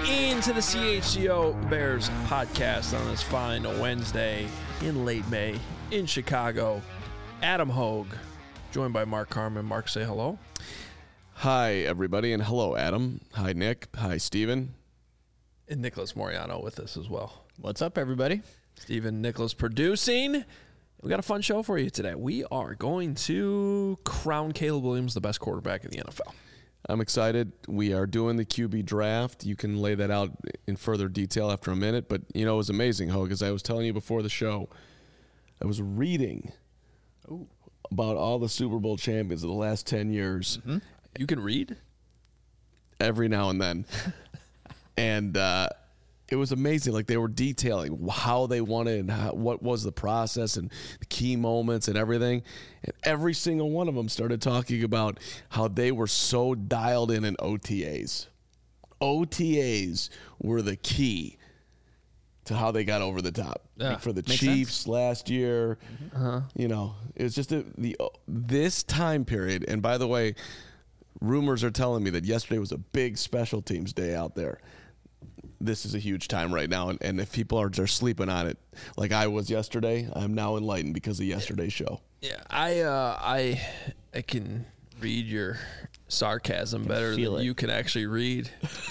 into the CHGO Bears podcast on this fine Wednesday in late May in Chicago. Adam Hogue, joined by Mark Carman. Mark, say hello. Hi, everybody, and hello, Adam. Hi, Nick. Hi, Steven. And Nicholas Moriano with us as well. What's up, everybody? Steven, Nicholas producing. We got a fun show for you today. We are going to crown Caleb Williams the best quarterback in the NFL. I'm excited. We are doing the QB draft. You can lay that out in further detail after a minute. But, you know, it was amazing, Hogue, as I was telling you before the show. I was reading about all the Super Bowl champions of the last 10 years. Mm-hmm. You can read? Every now and then. And it was amazing. Like, they were detailing how they won it and what was the process and the key moments and everything. And every single one of them started talking about how they were so dialed in OTAs. OTAs were the key to how they got over the top. Yeah, like for the Chiefs last year, you know, it was just this time period. And by the way, rumors are telling me that yesterday was a big special teams day out there. This is a huge time right now, and if people are just sleeping on it, like I was yesterday, I'm now enlightened because of yesterday's show. Yeah, I can read your sarcasm better than you can actually read.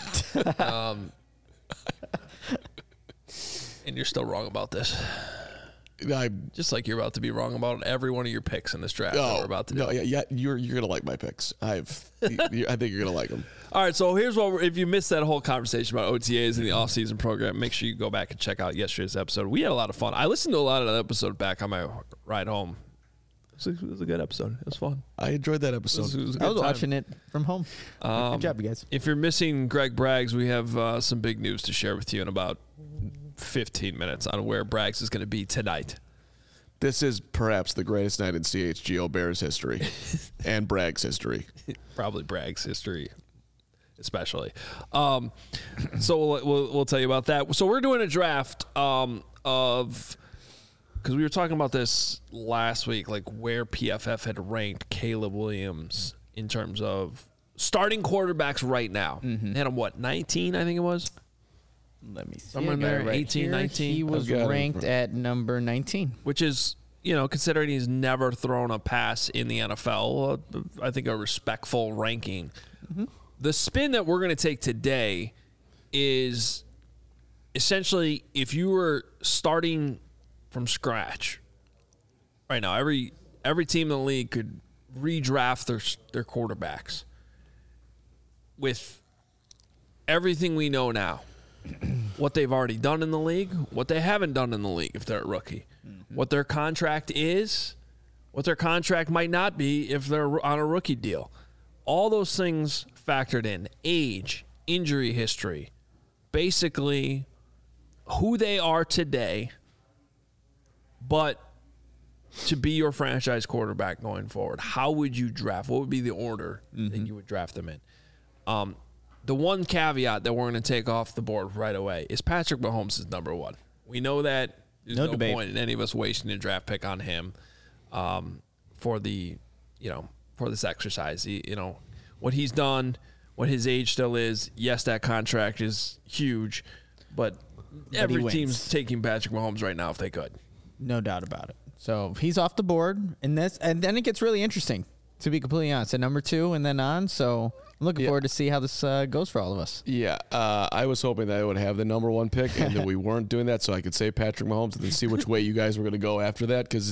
And you're still wrong about this. Just like you're about to be wrong about every one of your picks in this draft that we're about to do. No, yeah, you're gonna like my picks. I think you're gonna like them. All right, so here's if you missed that whole conversation about OTAs in the offseason program, make sure you go back and check out yesterday's episode. We had a lot of fun. I listened to a lot of that episode back on my ride home. It was a good episode. It was fun. I enjoyed that episode. I was watching it from home. Good job, you guys. If you're missing Greg Braggs, we have some big news to share with you in about 15 minutes on where Braggs is going to be tonight. This is perhaps the greatest night in CHGO Bears history and Braggs history. Probably Braggs history, especially. So we'll tell you about that. So we're doing a draft of, because we were talking about this last week, like where PFF had ranked Caleb Williams in terms of starting quarterbacks right now. They had him, 19, I think it was? Let me see. Somewhere in there, 18, 19. He was ranked at number 19. Which is, you know, considering he's never thrown a pass in the NFL, I think a respectful ranking. Mm-hmm. The spin that we're going to take today is essentially if you were starting from scratch right now, every team in the league could redraft their quarterbacks with everything we know now. What they've already done in the league, what they haven't done in the league if they're a rookie, what their contract is, what their contract might not be if they're on a rookie deal. All those things factored in. Age, injury history, basically who they are today, but to be your franchise quarterback going forward. How would you draft? What would be the order that you would draft them in? The one caveat that we're going to take off the board right away is Patrick Mahomes is number one. We know that there's no point in any of us wasting a draft pick on him for this exercise. What he's done, what his age still is. Yes, that contract is huge, but every team's taking Patrick Mahomes right now if they could. No doubt about it. So he's off the board, and then it gets really interesting, to be completely honest, at number 2 and then on. So I'm looking forward to see how this goes for all of us. Yeah, I was hoping that I would have the number 1 pick and that we weren't doing that, so I could say Patrick Mahomes and then see which way you guys were going to go after that, because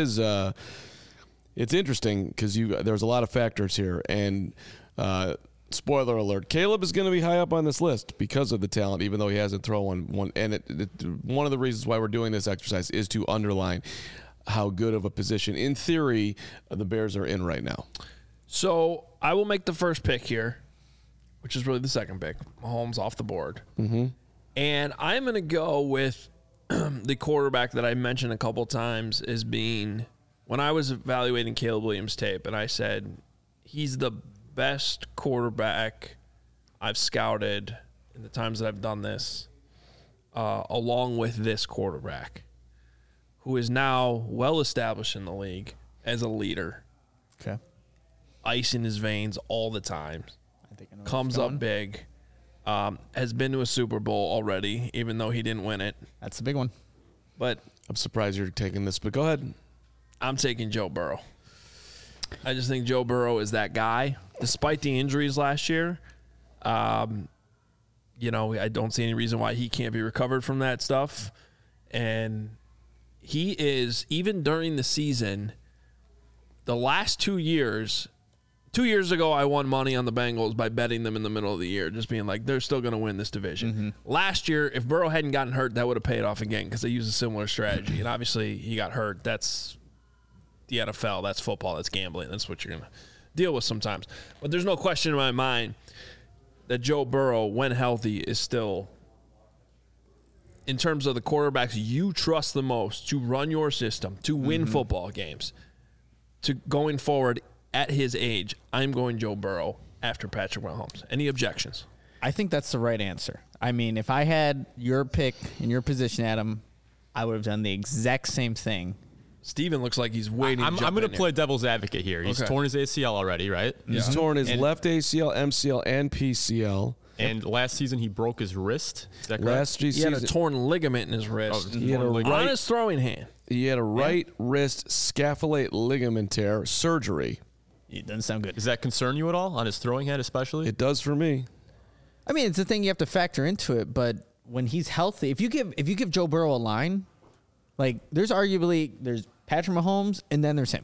it's interesting because there's a lot of factors here. And spoiler alert: Caleb is going to be high up on this list because of the talent, even though he hasn't thrown one. And one of the reasons why we're doing this exercise is to underline how good of a position, in theory, the Bears are in right now. So I will make the first pick here, which is really the second pick. Mahomes off the board. Mm-hmm. And I'm going to go with the quarterback that I mentioned a couple times as being, when I was evaluating Caleb Williams' tape, and I said, he's the best quarterback I've scouted in the times that I've done this, along with this quarterback, who is now well established in the league as a leader. Okay. Ice in his veins all the time. I think I know comes up big. has been to a Super Bowl already, even though he didn't win it. That's the big one. But I'm surprised you're taking this, but go ahead. I'm taking Joe Burrow. I just think Joe Burrow is that guy. Despite the injuries last year, I don't see any reason why he can't be recovered from that stuff. And he is, even during the season, the last 2 years, 2 years ago, I won money on the Bengals by betting them in the middle of the year, just being like, they're still going to win this division. Mm-hmm. Last year, if Burrow hadn't gotten hurt, that would have paid off again because they used a similar strategy. And obviously, he got hurt. That's the NFL. That's football. That's gambling. That's what you're going to deal with sometimes. But there's no question in my mind that Joe Burrow, when healthy, is still, in terms of the quarterbacks you trust the most to run your system, to win football games, to going forward at his age, I'm going Joe Burrow after Patrick Mahomes. Any objections? I think that's the right answer. I mean, if I had your pick in your position, Adam, I would have done the exact same thing. Steven looks like he's waiting. I'm going to play devil's advocate here. He's torn his ACL already, right? He's torn his left ACL, MCL, and PCL. And last season he broke his wrist. Is that correct? He had a torn ligament in his wrist. He had on his throwing hand. He had a right wrist scapholate ligament tear surgery. It doesn't sound good. Does that concern you at all on his throwing hand, especially? It does for me. I mean, it's a thing you have to factor into it. But when he's healthy, if you give Joe Burrow a line, like there's Patrick Mahomes and then there's him.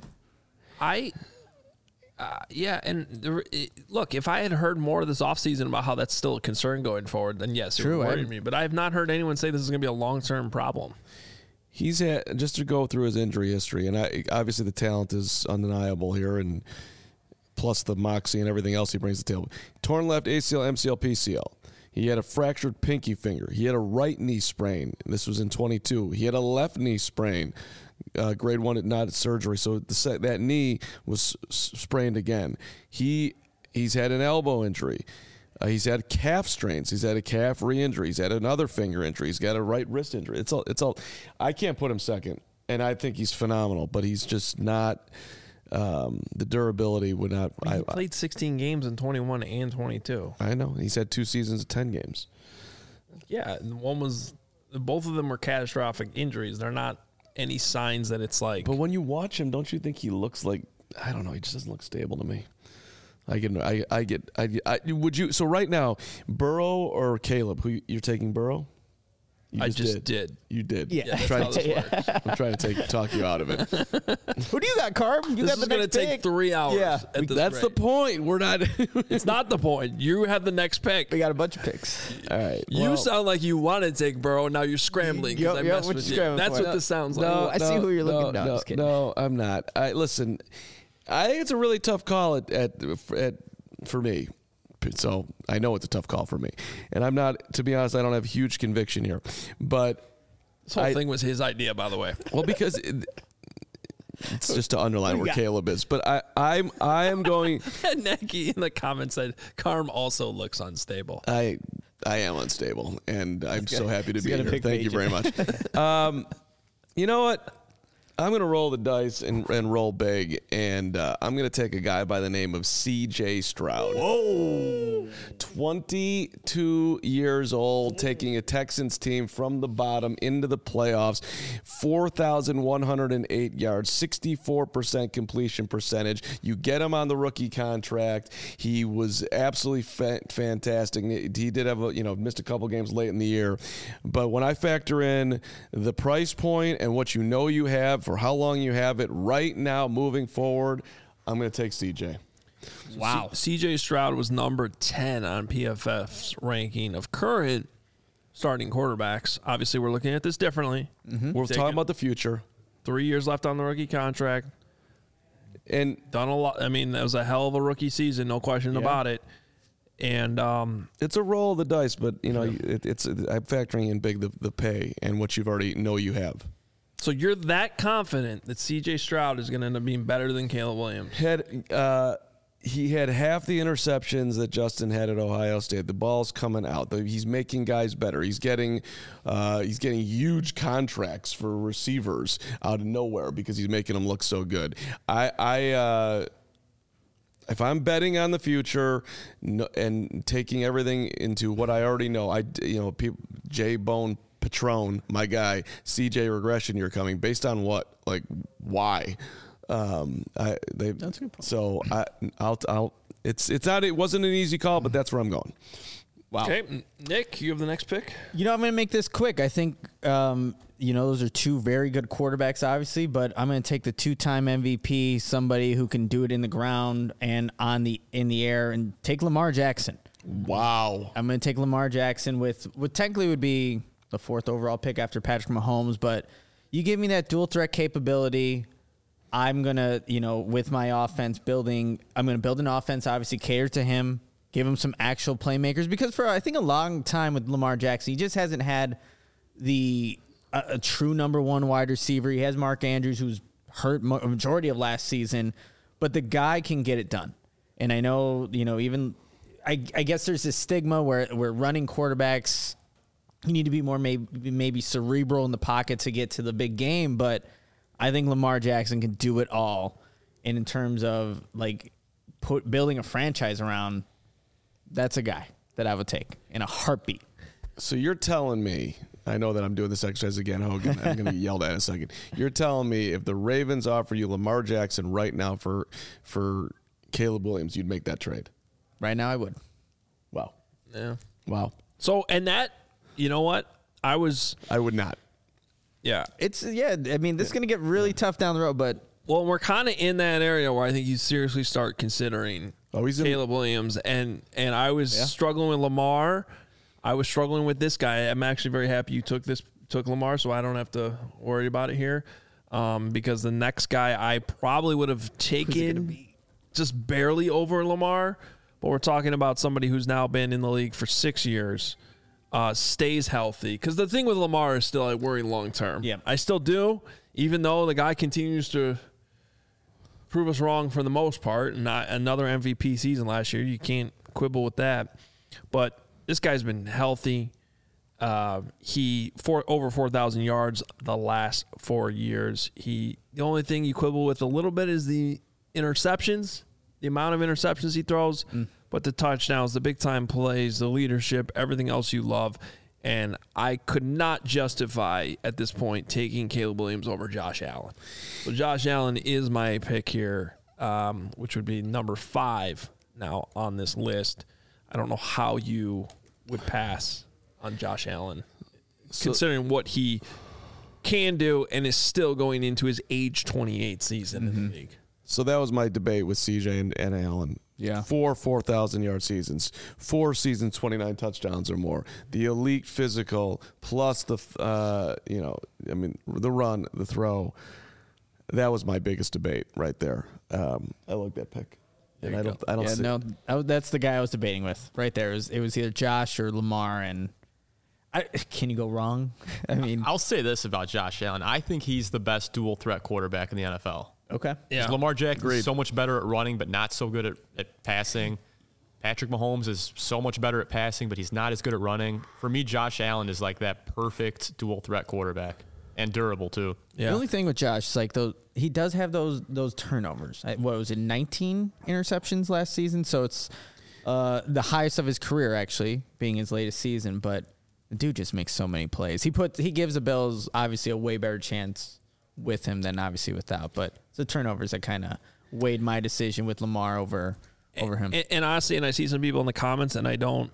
Look, if I had heard more this offseason about how that's still a concern going forward, then yes, it would worry me. But I have not heard anyone say this is going to be a long-term problem. He's had, just to go through his injury history, and obviously the talent is undeniable here, and plus the moxie and everything else he brings to the table. Torn left ACL, MCL, PCL. He had a fractured pinky finger. He had a right knee sprain. This was in 22. He had a left knee sprain, grade 1, not surgery. So that knee was sprained again. He's had an elbow injury. He's had calf strains. He's had a calf re-injury. He's had another finger injury. He's got a right wrist injury. It's all. I can't put him second, and I think he's phenomenal, but he's just not. The durability would not. He played 16 games in 21 and 22. I know. He's had 2 seasons of 10 games. Yeah, and both of them were catastrophic injuries. They're not any signs that it's like. But when you watch him, don't you think he looks like, I don't know, he just doesn't look stable to me. Would you, so right now, Burrow or Caleb, who you're taking Burrow? I just did. You did. Yeah. I'm trying to talk you out of it. Who do you got, Carb? This is going to take 3 hours. Yeah. That's the point. We're not. It's not the point. You have the next pick. We got a bunch of picks. All right. You sound like you want to take Burrow. Now you're scrambling because I messed with you. That's what this sounds like. I see who you're looking at. No, no, I'm not. Listen, I think it's a really tough call for me. So I know it's a tough call for me. And I'm not, to be honest, I don't have huge conviction here. But this whole thing was his idea, by the way. Well, because it's just to underline where Caleb is. But I am going. Nagy in the comments said Carm also looks unstable. I am unstable, and I'm so happy to be here. Thank you very much. You know what? I'm going to roll the dice and roll big, and I'm going to take a guy by the name of C.J. Stroud. Whoa. 22 years old, taking a Texans team from the bottom into the playoffs. 4,108 yards, 64% completion percentage. You get him on the rookie contract. He was absolutely fantastic. He did have missed a couple games late in the year. But when I factor in the price point and what you have, for how long you have it right now moving forward, I'm going to take CJ. Wow. CJ Stroud was number 10 on PFF's ranking of current starting quarterbacks. Obviously, we're looking at this differently. Mm-hmm. We're talking about the future. 3 years left on the rookie contract. And done a lot. I mean, that was a hell of a rookie season, no question about it. And it's a roll of the dice, but I'm factoring in big the pay and what you've already know you have. So you're that confident that C.J. Stroud is going to end up being better than Caleb Williams? He had half the interceptions that Justin had at Ohio State. The ball's coming out. He's making guys better. He's getting huge contracts for receivers out of nowhere because he's making them look so good. if I'm betting on the future and taking everything into what I already know, J Bone Patron, my guy, CJ regression year coming based on what, like why? That's a good point. So it wasn't an easy call, but that's where I'm going. Wow. Okay, Nick, you have the next pick. I'm going to make this quick. I think, those are two very good quarterbacks, obviously, but I'm going to take the 2-time MVP, somebody who can do it in the ground and in the air, and take Lamar Jackson. Wow. I'm going to take Lamar Jackson with what technically would be the 4th overall pick after Patrick Mahomes, but you give me that dual threat capability. I'm going to, with my offense I'm going to build an offense, obviously cater to him, give him some actual playmakers, because for, I think, a long time with Lamar Jackson, he just hasn't had a true number one wide receiver. He has Mark Andrews, who's hurt a majority of last season, but the guy can get it done. And I know, I guess there's this stigma where running quarterbacks, you need to be more maybe cerebral in the pocket to get to the big game, but I think Lamar Jackson can do it all. And in terms of building a franchise around, that's a guy that I would take in a heartbeat. So you're telling me, I know that I'm doing this exercise again, Hogan. I'm going to get yelled at in a second. You're telling me if the Ravens offer you Lamar Jackson right now for Caleb Williams, you'd make that trade? Right now, I would. Wow. Yeah. Wow. So, and that, you know what? I would not. Yeah. This is going to get really tough down the road, but. Well, we're kind of in that area where I think you seriously start considering Caleb Williams. And I was struggling with Lamar. I was struggling with this guy. I'm actually very happy you took Lamar, so I don't have to worry about it here. Because the next guy I probably would have taken just barely over Lamar, but we're talking about somebody who's now been in the league for 6 years, stays healthy. Because the thing with Lamar is still I worry long term. Yeah. I still do, even though the guy continues to prove us wrong for the most part. Not another MVP season last year. You can't quibble with that. But this guy's been healthy. He over 4,000 yards the last 4 years. The only thing you quibble with a little bit is the interceptions, the amount of interceptions he throws, but the touchdowns, the big time plays, the leadership, everything else you love. And I could not justify at this point taking Caleb Williams over Josh Allen. So Josh Allen is my pick here, which would be number 5 now on this list. I don't know how you would pass on Josh Allen, considering what he can do and is still going into his age 28 season in the league. So that was my debate with CJ and Allen. Yeah. 4,000-yard seasons, 4 seasons, 29 touchdowns or more. The elite physical plus the run, the throw. That was my biggest debate right there. I like that pick. And I don't. That's the guy I was debating with right there. It was either Josh or Lamar, and can you go wrong? I mean, I'll say this about Josh Allen. I think he's the best dual threat quarterback in the NFL. Okay. Yeah. Lamar Jackson is so much better at running, but not so good at passing. Patrick Mahomes is so much better at passing, but he's not as good at running. For me, Josh Allen is like that perfect dual threat quarterback, and durable too. Yeah. The only thing with Josh is he does have those turnovers. What was it, 19 interceptions last season? So it's the highest of his career, actually, being his latest season. But the dude just makes so many plays. He gives the Bills obviously a way better chance with him than obviously without. But it's the turnovers that kind of weighed my decision with Lamar over him. And honestly, and I see some people in the comments, and I don't.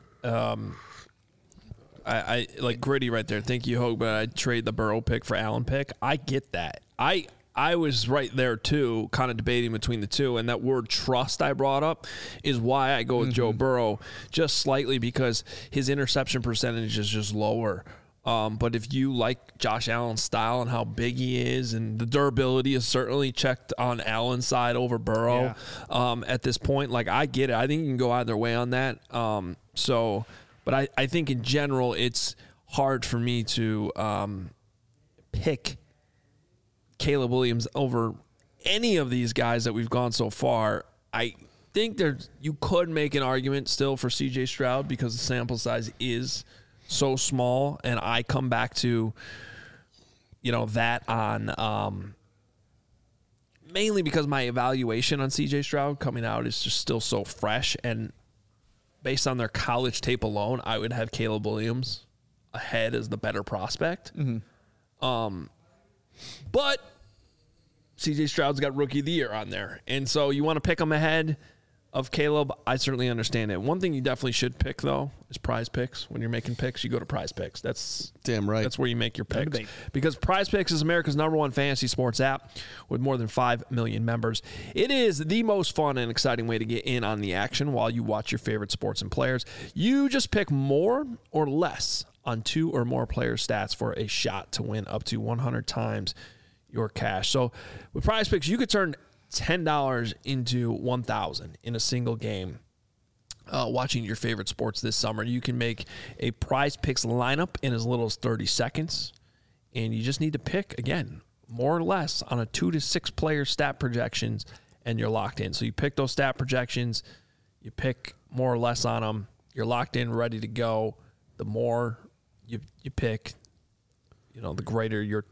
I like Gritty right there. Thank you, Hogue, but I'd trade the Burrow pick for Allen pick. I get that. I was right there too, kind of debating between the two, and that word trust I brought up is why I go with Joe Burrow just slightly, because his interception percentage is just lower. But if you like Josh Allen's style and how big he is, and the durability is certainly checked on Allen's side over Burrow at this point, like I get it. I think you can go either way on that. But I think in general, it's hard for me to pick Caleb Williams over any of these guys that we've gone so far. I think you could make an argument still for C.J. Stroud because the sample size is so small, and I come back to that on mainly because my evaluation on C.J. Stroud coming out is just still so fresh, and based on their college tape alone, I would have Caleb Williams ahead as the better prospect. But C.J. Stroud's got Rookie of the Year on there, and so you want to pick him ahead of Caleb. I certainly understand it. One thing you definitely should pick, though, is Prize Picks. When you're making picks, you go to Prize Picks. That's damn right. That's where you make your picks. Because Prize Picks is America's #1 fantasy sports app with more than 5 million members. It is the most fun and exciting way to get in on the action while you watch your favorite sports and players. You just pick more or less on 2 or more player stats for a shot to win up to 100 times your cash. So with Prize Picks, you could turn $10 into 1,000 in a single game. Watching your favorite sports this summer, you can make a Prize Picks lineup in as little as 30 seconds, and you just need to pick, again, more or less on a 2 to 6 player stat projections, and you're locked in. So you pick those stat projections, you pick more or less on them, you're locked in, ready to go. The more you pick, the greater your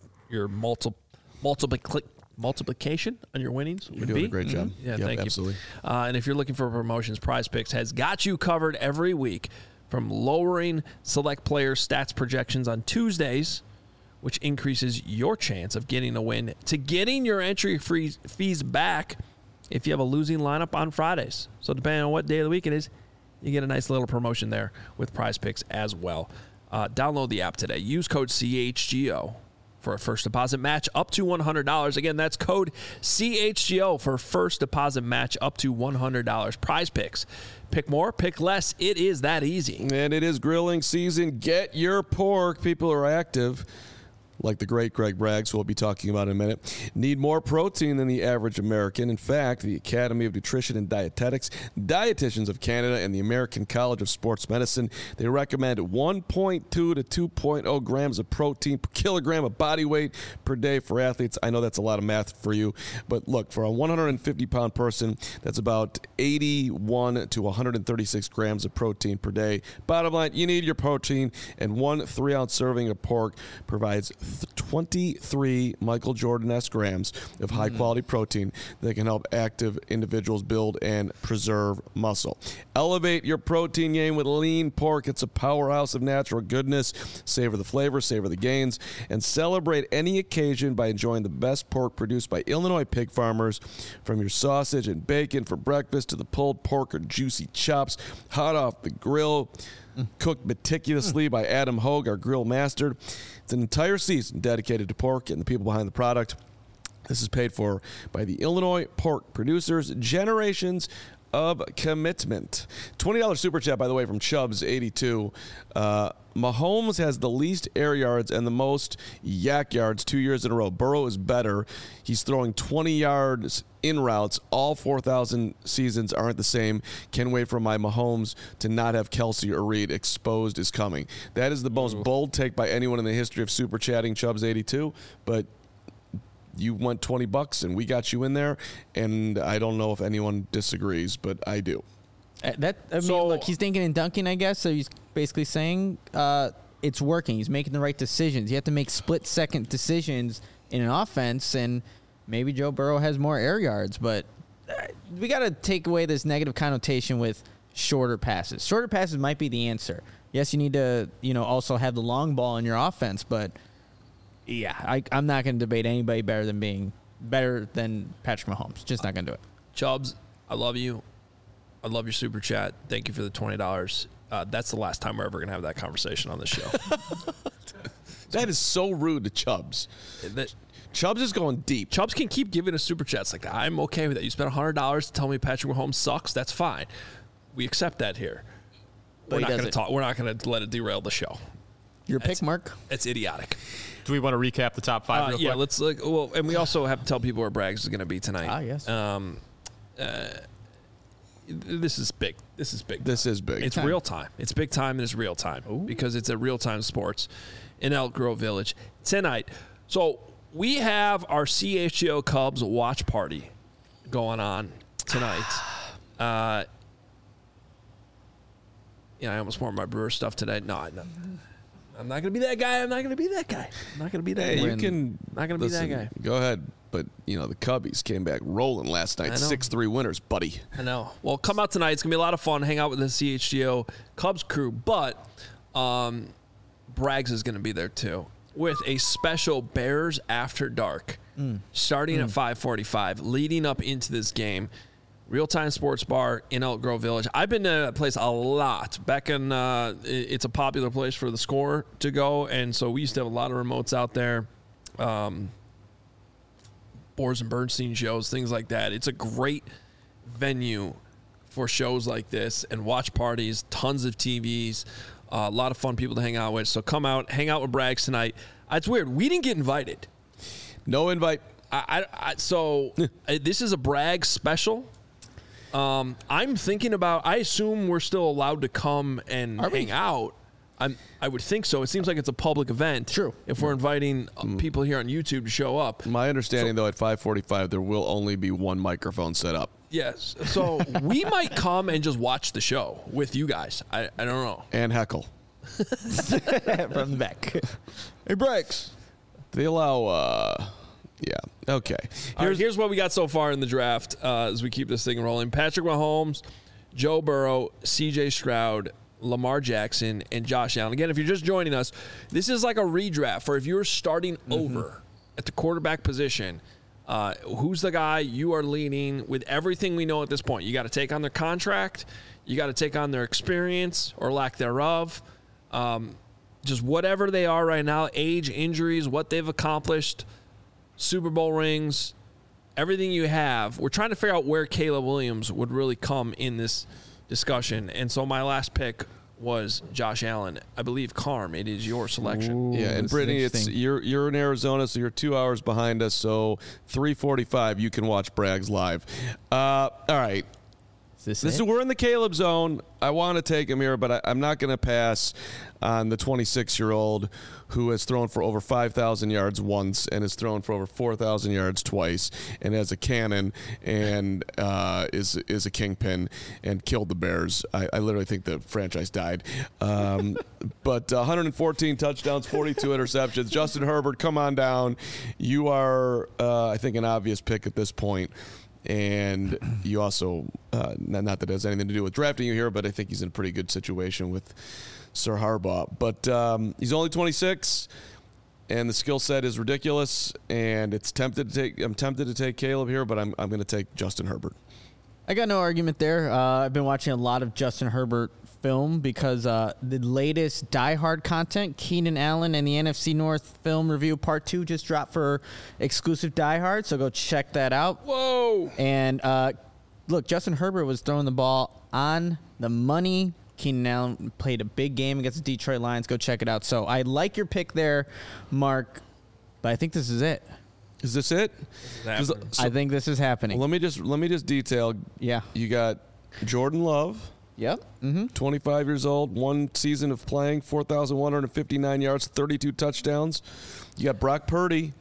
multiplication on your winnings would be. You're doing a great job. Yeah, thank absolutely. you. And if you're looking for promotions, Prize Picks has got you covered every week, from lowering select player stats projections on Tuesdays, which increases your chance of getting a win, to getting your entry fees back if you have a losing lineup on Fridays. So depending on what day of the week it is, you get a nice little promotion there with Prize Picks as well. Download the app today. Use code CHGO for a first deposit match up to $100. Again, that's code CHGO for first deposit match up to $100. Prize Picks. Pick more, pick less. It is that easy. And it is grilling season. Get your pork. People are active, like the great Greg Braggs, who we'll be talking about in a minute, need more protein than the average American. In fact, the Academy of Nutrition and Dietetics, Dietitians of Canada, and the American College of Sports Medicine, they recommend 1.2 to 2.0 grams of protein per kilogram of body weight per day for athletes. I know that's a lot of math for you, but look, for a 150-pound person, that's about 81 to 136 grams of protein per day. Bottom line, you need your protein, and 1 3-ounce serving of pork provides 23 Michael Jordan-esque grams of high-quality protein that can help active individuals build and preserve muscle. Elevate your protein game with lean pork. It's a powerhouse of natural goodness. Savor the flavor, savor the gains, and celebrate any occasion by enjoying the best pork produced by Illinois pig farmers. From your sausage and bacon for breakfast to the pulled pork or juicy chops hot off the grill, cooked meticulously by Adam Hogue, our grill master. It's an entire season dedicated to pork and the people behind the product. This is paid for by the Illinois pork producers. Generations of commitment. $20 super chat, by the way, from Chubbs82. Mahomes has the least air yards and the most yak yards 2 years in a row. Burrow is better. He's throwing 20 yards in routes. All 4,000 seasons aren't the same. Can't wait for my Mahomes to not have Kelsey or Reed. Exposed is coming. That is the most bold take by anyone in the history of super chatting, Chubbs82. But you went $20 and we got you in there, and I don't know if anyone disagrees, but I do. Look, he's thinking and dunking, I guess. So he's basically saying it's working. He's making the right decisions. You have to make split-second decisions in an offense, and maybe Joe Burrow has more air yards, but we got to take away this negative connotation with shorter passes. Shorter passes might be the answer. Yes, you need to, also have the long ball in your offense, but yeah, I'm not going to debate anybody better than Patrick Mahomes. Just not going to do it. Chubbs, I love you. I love your super chat. Thank you for the $20. That's the last time we're ever going to have that conversation on this show. That is so rude to Chubbs. Chubbs is going deep. Chubbs can keep giving us super chats like that. I'm okay with that. You spent $100 to tell me Patrick Mahomes sucks. That's fine. We accept that here. We're not going to talk. We're not going to let it derail the show. Your pick, Mark? It's idiotic. Do we want to recap the top 5 real quick? Yeah, let's look. Well, and we also have to tell people where Braggs is going to be tonight. Yes. This is big. This is big. This is big. It's real time. It's big time and it's real time because it's a real time sports in Elk Grove Village tonight. So we have our CHGO Cubs watch party going on tonight. I almost wore my Brewer stuff today. No, I'm not going to be that guy. I'm not going to be that guy. I'm not going to be that guy. You can. Not going to be that guy. Go ahead. but the Cubbies came back rolling last night, 6-3 winners, buddy. I know. Well, come out tonight. It's gonna be a lot of fun. Hang out with the CHGO Cubs crew, but Braggs is gonna be there too with a special Bears After Dark, starting at 5:45, leading up into this game. Real Time Sports Bar in Elk Grove Village. I've been to that place a lot. Back in, it's a popular place for the Score to go, and so we used to have a lot of remotes out there. Boers and Bernstein shows, things like that. It's a great venue for shows like this and watch parties, tons of TVs, a lot of fun people to hang out with. So come out, hang out with Braggs tonight. It's weird. We didn't get invited. No invite. So this is a Braggs special. I'm thinking about, I assume we're still allowed to come and hang out. I would think so. It seems like it's a public event. True. If we're inviting people here on YouTube to show up. My understanding, though, at 5:45, there will only be one microphone set up. Yes. So we might come and just watch the show with you guys. I don't know. And heckle. From the back. Hey, Braggs. They allow, yeah. Okay. Here's what we got so far in the draft as we keep this thing rolling. Patrick Mahomes, Joe Burrow, C.J. Stroud, Lamar Jackson, and Josh Allen. Again, if you're just joining us, this is like a redraft for if you're starting over at the quarterback position. Who's the guy you are leaning with everything we know at this point? You got to take on their contract. You got to take on their experience or lack thereof. Just whatever they are right now, age, injuries, what they've accomplished, Super Bowl rings, everything you have. We're trying to figure out where Caleb Williams would really come in this discussion. And so my last pick was Josh Allen. I believe, Carm, it is your selection. Yeah, and Brittany, you're in Arizona, so you're 2 hours behind us. So 3:45, you can watch Braggs live. All right. We're in the Caleb zone. I want to take him here, but I'm not going to pass on the 26-year-old who has thrown for over 5,000 yards once and has thrown for over 4,000 yards twice and has a cannon and is a kingpin and killed the Bears. I literally think the franchise died. But 114 touchdowns, 42 interceptions. Justin Herbert, come on down. You are, I think, an obvious pick at this point. And you also, not that it has anything to do with drafting you here, but I think he's in a pretty good situation with Sir Harbaugh. But he's only 26, and the skill set is ridiculous. And I'm tempted to take Caleb here, but I'm going to take Justin Herbert. I got no argument there. I've been watching a lot of Justin Herbert film because the latest Die Hard content, Keenan Allen and the NFC North film review part 2 just dropped for exclusive Die Hard, so go check that out. Whoa! And look, Justin Herbert was throwing the ball on the money. Keenan Allen played a big game against the Detroit Lions. Go check it out. So I like your pick there, Mark, but I think this is it. Is this it? I think this is happening. Let me just detail. Yeah. You got Jordan Love. Yep. 25 years old, one season of playing, 4,159 yards, 32 touchdowns. You got Brock Purdy.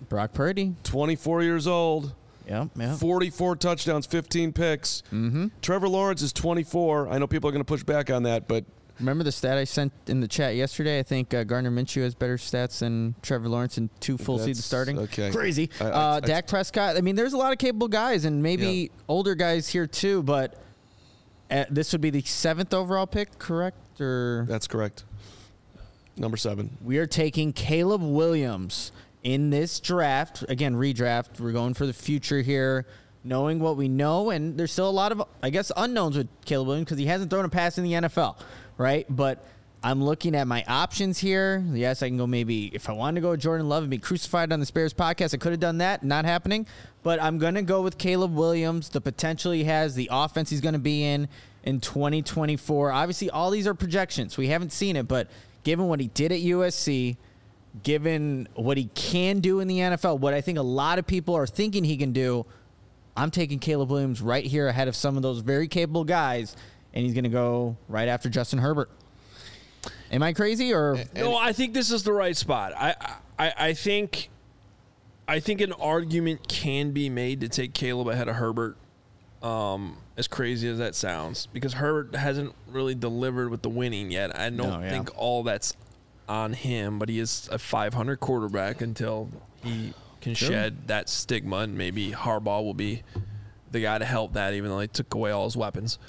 24 years old. Yep. 44 touchdowns, 15 picks. Trevor Lawrence is 24. I know people are going to push back on that, but remember the stat I sent in the chat yesterday? I think Gardner Minshew has better stats than Trevor Lawrence in 2 full seasons starting. Okay. Crazy. Dak Prescott. I mean, there's a lot of capable guys and maybe older guys here too, but this would be the 7th overall pick, correct? Or that's correct. Number 7. We are taking Caleb Williams in this draft. Again, redraft. We're going for the future here, knowing what we know. And there's still a lot of, I guess, unknowns with Caleb Williams because he hasn't thrown a pass in the NFL, right? But I'm looking at my options here. Yes, I can go maybe, if I wanted to go with Jordan Love and be crucified on the Bears podcast, I could have done that. Not happening. But I'm going to go with Caleb Williams, the potential he has, the offense he's going to be in 2024. Obviously, all these are projections. We haven't seen it, but given what he did at USC, given what he can do in the NFL, what I think a lot of people are thinking he can do, I'm taking Caleb Williams right here ahead of some of those very capable guys, and he's going to go right after Justin Herbert. Am I crazy or no? I think this is the right spot. I think an argument can be made to take Caleb ahead of Herbert. As crazy as that sounds, because Herbert hasn't really delivered with the winning yet. I don't think all that's on him, but he is a 500 quarterback until he can shed that stigma, and maybe Harbaugh will be the guy to help that, even though they took away all his weapons.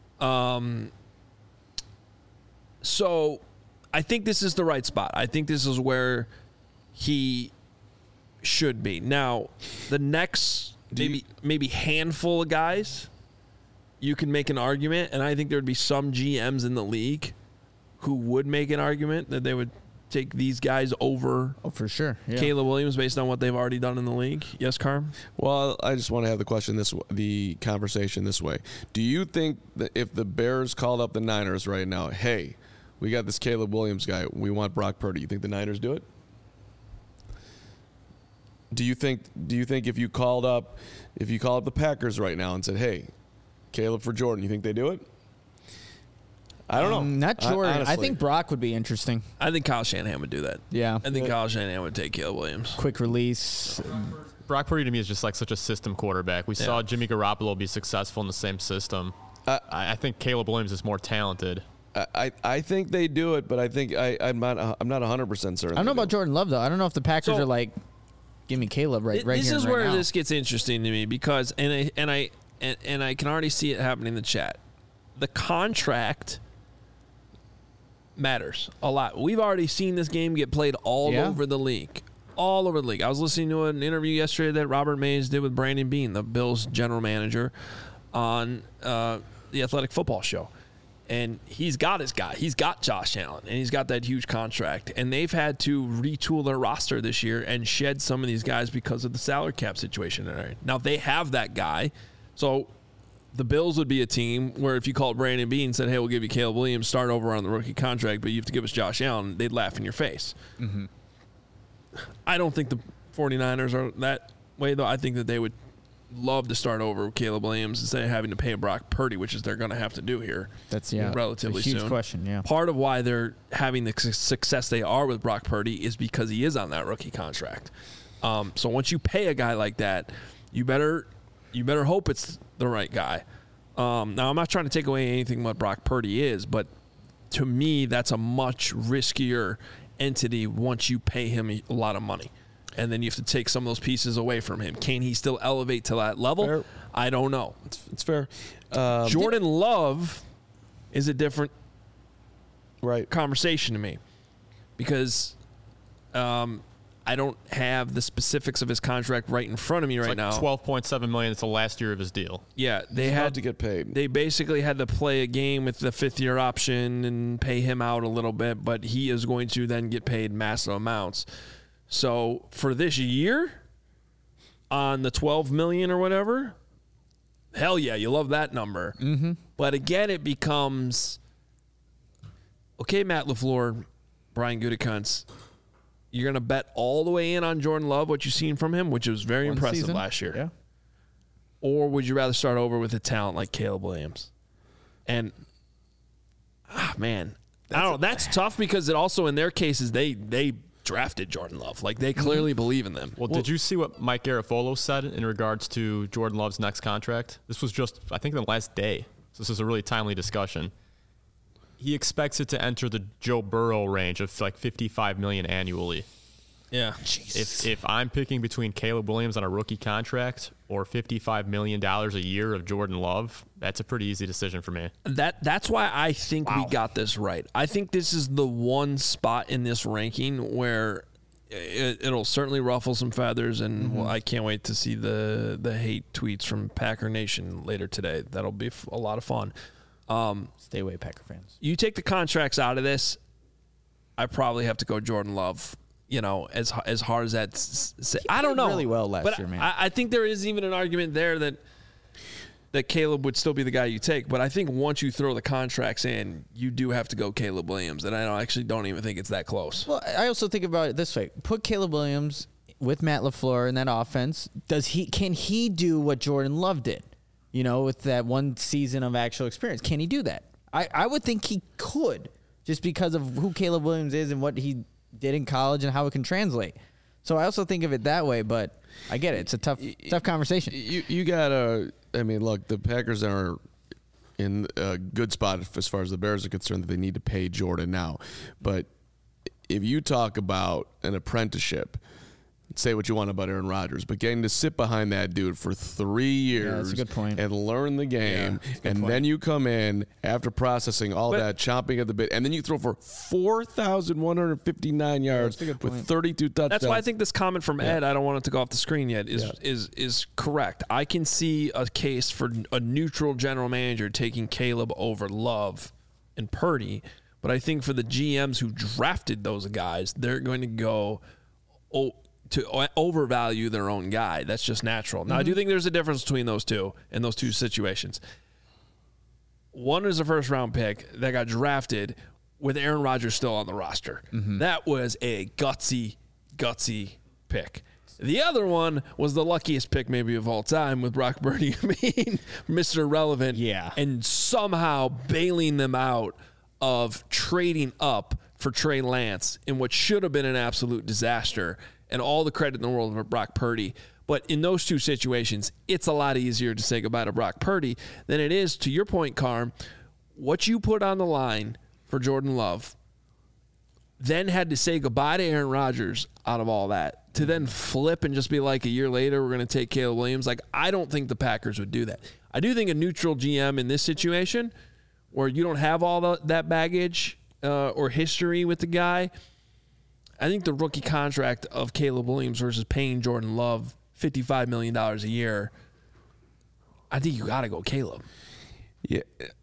So I think this is the right spot. I think this is where he should be. Now, the next maybe handful of guys, you can make an argument, and I think there would be some GMs in the league who would make an argument that they would take these guys over for sure. Yeah. Caleb Williams based on what they've already done in the league. Yes, Carm? Well, I just want to have the conversation this way. Do you think that if the Bears called up the Niners right now, hey, we got this Caleb Williams guy, we want Brock Purdy, you think the Niners do it? Do you think if you called up the Packers right now and said, hey, Caleb for Jordan, you think they do it? I don't know. Not Jordan. I think Brock would be interesting. I think Kyle Shanahan would do that. Yeah. I think Kyle Shanahan would take Caleb Williams. Quick release. Brock Purdy to me is just like such a system quarterback. We saw Jimmy Garoppolo be successful in the same system. I think Caleb Williams is more talented. I think they do it, but I think I'm not 100% certain. I don't know about Jordan Love though. I don't know if the Packers are like, give me Caleb right this here. This is right where now. this gets interesting to me because and I can already see it happening in the chat. The contract matters a lot. We've already seen this game get played all over the league. All over the league. I was listening to an interview yesterday that Robert Mays did with Brandon Beane, the Bills general manager, on the Athletic Football Show. And he's got his guy. He's got Josh Allen, and he's got that huge contract. And they've had to retool their roster this year and shed some of these guys because of the salary cap situation. Now, they have that guy. So the Bills would be a team where if you called Brandon Beane and said, hey, we'll give you Caleb Williams, start over on the rookie contract, but you have to give us Josh Allen, they'd laugh in your face. Mm-hmm. I don't think the 49ers are that way, though. I think that they would love to start over with Caleb Williams instead of having to pay Brock Purdy, which is they're going to have to do here. That's relatively a huge soon. Question. Yeah. Part of why they're having the success they are with Brock Purdy is because he is on that rookie contract. So once you pay a guy like that, you better hope it's the right guy. Now I'm not trying to take away anything what Brock Purdy is, but to me that's a much riskier entity once you pay him a lot of money. And then you have to take some of those pieces away from him. Can he still elevate to that level? Fair. I don't know. It's fair. Jordan Love is a different conversation to me because I don't have the specifics of his contract right in front of me right now. $12.7 million. It's the last year of his deal. Yeah, they He's had about to get paid. They basically had to play a game with the fifth-year option and pay him out a little bit, but he is going to then get paid massive amounts. So for this year, on the $12 million or whatever, hell yeah, you love that number. Mm-hmm. But again, it becomes okay. Matt LaFleur, Brian Gutekunst, you're going to bet all the way in on Jordan Love, what you've seen from him, which was very impressive season. last year. Yeah. Or would you rather start over with a talent like Caleb Williams? And man, I don't know. That's tough because it also in their cases they drafted Jordan Love. Like they clearly believe in them. Well, did you see what Mike Garafolo said in regards to Jordan Love's next contract? This was just, I think, the last day. So this is a really timely discussion. He expects it to enter the Joe Burrow range of like $55 million annually. Yeah. If I'm picking between Caleb Williams on a rookie contract or $55 million a year of Jordan Love, that's a pretty easy decision for me. That's why I think we got this right. I think this is the one spot in this ranking where it'll certainly ruffle some feathers, and I can't wait to see the hate tweets from Packer Nation later today. That'll be a lot of fun. Stay away, Packer fans. You take the contracts out of this, I probably have to go Jordan Love. You know, as hard as that, I don't know. Really well last year, man. I think there is even an argument there that Caleb would still be the guy you take. But I think once you throw the contracts in, you do have to go Caleb Williams, and I actually don't even think it's that close. Well, I also think about it this way: put Caleb Williams with Matt LaFleur in that offense. Can he do what Jordan Love did? You know, with that one season of actual experience, can he do that? I would think he could, just because of who Caleb Williams is and what he did in college and how it can translate. So I also think of it that way, but I get it. It's a tough conversation. You gotta, I mean, look, the Packers are in a good spot as far as the Bears are concerned that they need to pay Jordan now. But if you talk about an apprenticeship, say what you want about Aaron Rodgers, but getting to sit behind that dude for 3 years that's a good point. and learn the game, and then you come in after processing all that, chomping at the bit, and then you throw for 4,159 yards with 32 touchdowns. That's why I think this comment from Ed, I don't want it to go off the screen yet, is correct. I can see a case for a neutral general manager taking Caleb over Love and Purdy, but I think for the GMs who drafted those guys, they're going to go to overvalue their own guy. That's just natural. Now, I do think there's a difference between those two in those two situations. One is a first-round pick that got drafted with Aaron Rodgers still on the roster. That was a gutsy pick. The other one was the luckiest pick maybe of all time with Brock Purdy being Mr. Relevant and somehow bailing them out of trading up for Trey Lance in what should have been an absolute disaster. And all the credit in the world for Brock Purdy. But in those two situations, it's a lot easier to say goodbye to Brock Purdy than it is, to your point, Carm, what you put on the line for Jordan Love, then had to say goodbye to Aaron Rodgers out of all that, to then flip and just be like, a year later, we're going to take Caleb Williams. Like, I don't think the Packers would do that. I do think a neutral GM in this situation, where you don't have all that baggage or history with the guy, I think the rookie contract of Caleb Williams versus paying Jordan Love $55 million a year, I think you got to go Caleb. Yeah,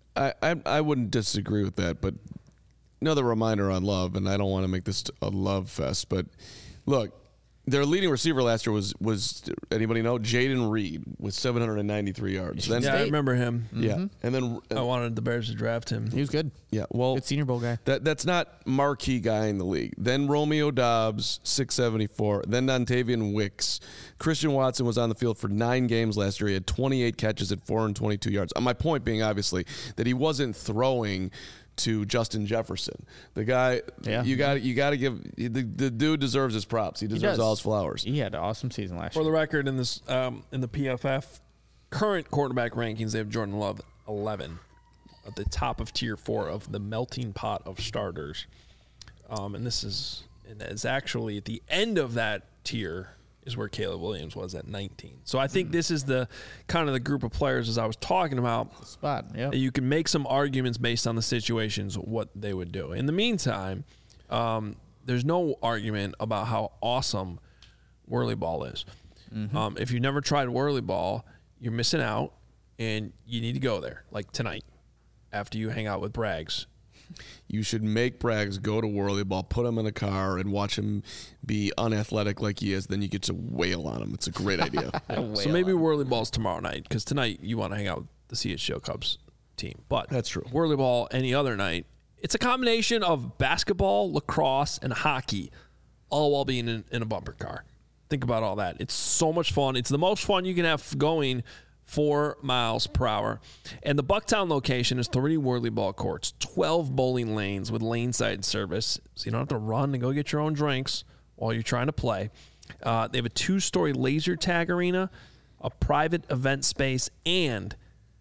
I wouldn't disagree with that, but another reminder on Love, and I don't want to make this a love fest, but look, their leading receiver last year was anybody know? Jaden Reed with 793 yards. Then, I remember him. Yeah, and then I wanted the Bears to draft him. He was good. Yeah, well, good Senior Bowl guy. That's not marquee guy in the league. Then Romeo Doubs, 674. Then Dontavian Wicks. Christian Watson was on the field for 9 games last year. He had 28 catches at 422 yards. My point being, obviously, that he wasn't throwing to Justin Jefferson. The guy, you got to give the dude deserves his props. He deserves all his flowers. He had an awesome season last year. For the record, in this in the PFF current quarterback rankings, they have Jordan Love 11 at the top of tier 4 of the melting pot of starters. And this is actually at the end of that tier is where Caleb Williams was at 19. So I think this is the kind of the group of players, as I was talking about, spot. Yeah, you can make some arguments based on the situations what they would do. In the meantime, there's no argument about how awesome whirly ball is. If you've never tried whirly ball, you're missing out, and you need to go there, like tonight, after you hang out with Braggs. You should make Braggs go to whirly ball, put him in a car, and watch him be unathletic like he is. Then you get to wail on him. It's a great idea. So maybe whirly ball's tomorrow night, because tonight you want to hang out with the CHGO Cubs team. But that's true. Whirly ball any other night. It's a combination of basketball, lacrosse, and hockey, all while being in a bumper car. Think about all that. It's so much fun. It's the most fun you can have going 4 miles per hour. And the Bucktown location is 3 whirly ball courts, 12 bowling lanes with lane side service, so you don't have to run and go get your own drinks while you're trying to play. They have a 2-story laser tag arena, a private event space, and